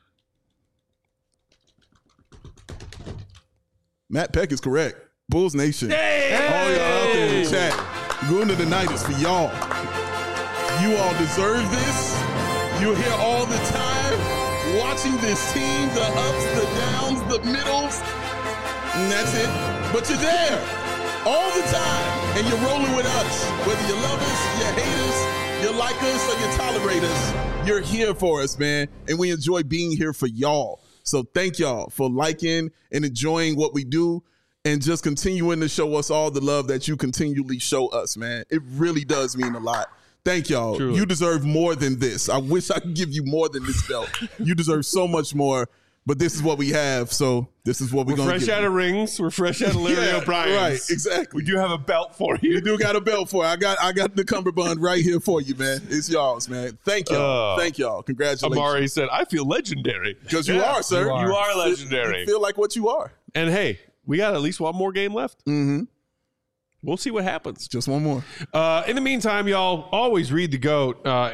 Matt Peck is correct. Bulls Nation. All y'all out there in the chat. Goon of the night is for y'all. You all deserve this. You're here all the time watching this team, the ups, the downs, the middles, and that's it. But you're there all the time, and you're rolling with us. Whether you love us, you hate us, you like us, or you tolerate us, you're here for us, man. And we enjoy being here for y'all. So thank y'all for liking and enjoying what we do and just continuing to show us all the love that you continually show us, man. It really does mean a lot. Thank y'all. Truly. You deserve more than this. I wish I could give you more than this belt. You deserve so much more, but this is what we have, so this is what we're We're going to fresh give out you. of rings. We're fresh out of Larry Yeah, O'Brien's. right, exactly. We do have a belt for you. You do got a belt for it. I got I got the cummerbund right here for you, man. It's y'all's, man. Thank y'all. Uh, Thank y'all. Congratulations. Amari said, I feel legendary. Because you Yeah, are, sir. You are, you are legendary. You feel like what you are. And hey, we got at least one more game left. Mm-hmm. We'll see what happens. Just one more. Uh, in the meantime, y'all, always read the GOAT. Uh,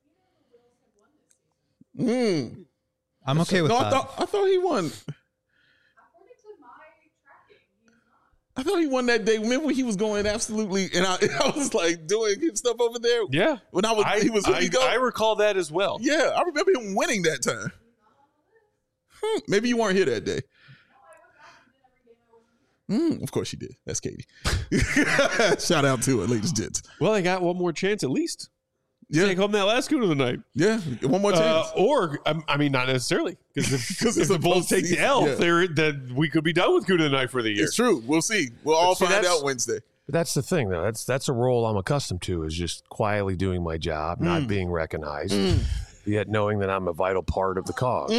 Mm. I'm okay with No, that. I thought I thought he won. According to my tracking, he's not. I thought he won that day. Remember when he was going absolutely, and I, I was like doing his stuff over there. yeah. When I was, I, he was I, he go. I recall that as well. Yeah, I remember him winning that time. Hmm, maybe you weren't here that day. Mm, of course you did. That's Katie. Shout out to her, ladies and gents. Well, they got one more chance at least. Yeah, Take home that last Goon of the night. yeah. One more Uh, chance. or, um, I mean, not necessarily. Because if, 'Cause if it's the a Bulls take the postseason, L, yeah. they're, then we could be done with Goon of the night for the year. It's true. We'll see. We'll all see, find that's- out Wednesday. But that's the thing, though. That's that's a role I'm accustomed to, is just quietly doing my job, not being recognized, yet knowing that I'm a vital part of the cause.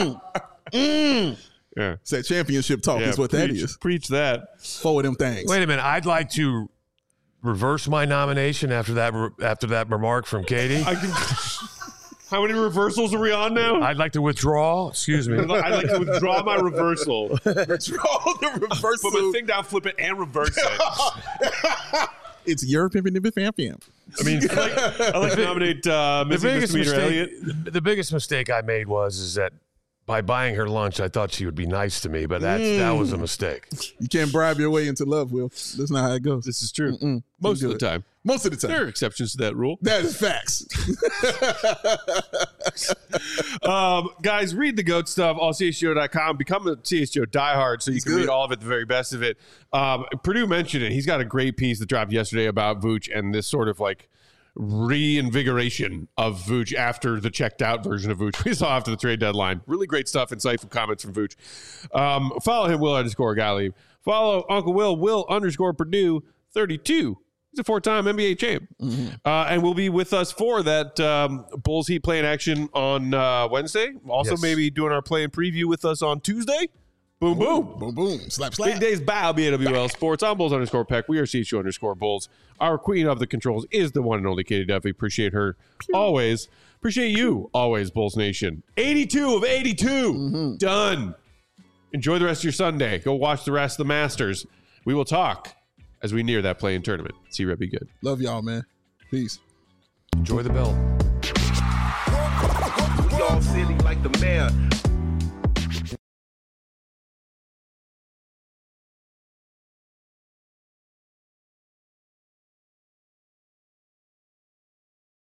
Yeah. It's that championship talk Yeah, is what preach, that is. Preach that. Four of them things. Wait a minute. I'd like to reverse my nomination after that re- after that remark from Katie. I can, how many reversals are we on now? I'd like to withdraw. Excuse me. I'd like to withdraw my reversal. Draw the reversal. Put my thing down, flip it, and reverse it. It's your pimpin' nippin' fam fam. I mean, I like, I like to nominate uh, the missing biggest misdemeanor mistake, Elliott. the biggest mistake I made was is that by buying her lunch, I thought she would be nice to me, but that Mm. that was a mistake. You can't bribe your way into love, Will. That's not how it goes. This is true. Mm-mm. Most of Can't the do it. time. Most of the time. There are exceptions to that rule. That is facts. Um, guys, read the GOAT stuff, all C H G O dot com. Become a C H G O diehard so you He's can good. read all of it, the very best of it. Um, Purdue mentioned it. He's got a great piece that dropped yesterday about Vooch and this sort of like reinvigoration of Vooch after the checked out version of Vooch we saw after the trade deadline. Really great stuff, insightful comments from Vooch. Um, follow him, Will underscore Gottlieb. Follow Uncle Will, Will underscore Purdue thirty-two. He's a four-time N B A champ. Mm-hmm. Uh, and will be with us for that um, Bulls Heat play in action on uh, Wednesday. Also, Yes. maybe doing our play and preview with us on Tuesday. Boom, boom. Boom, boom. Slap, slap. Big days, bow, B A W L Sports. I'm Bulls underscore Peck. We are C H U underscore Bulls. Our queen of the controls is the one and only Katie Duffy. Appreciate her always. Appreciate you always, Bulls Nation. eighty-two of eighty-two. Mm-hmm. Done. Enjoy the rest of your Sunday. Go watch the rest of the Masters. We will talk as we near that play-in tournament. See you, Reb. Be good. Love y'all, man. Peace. Enjoy the bell.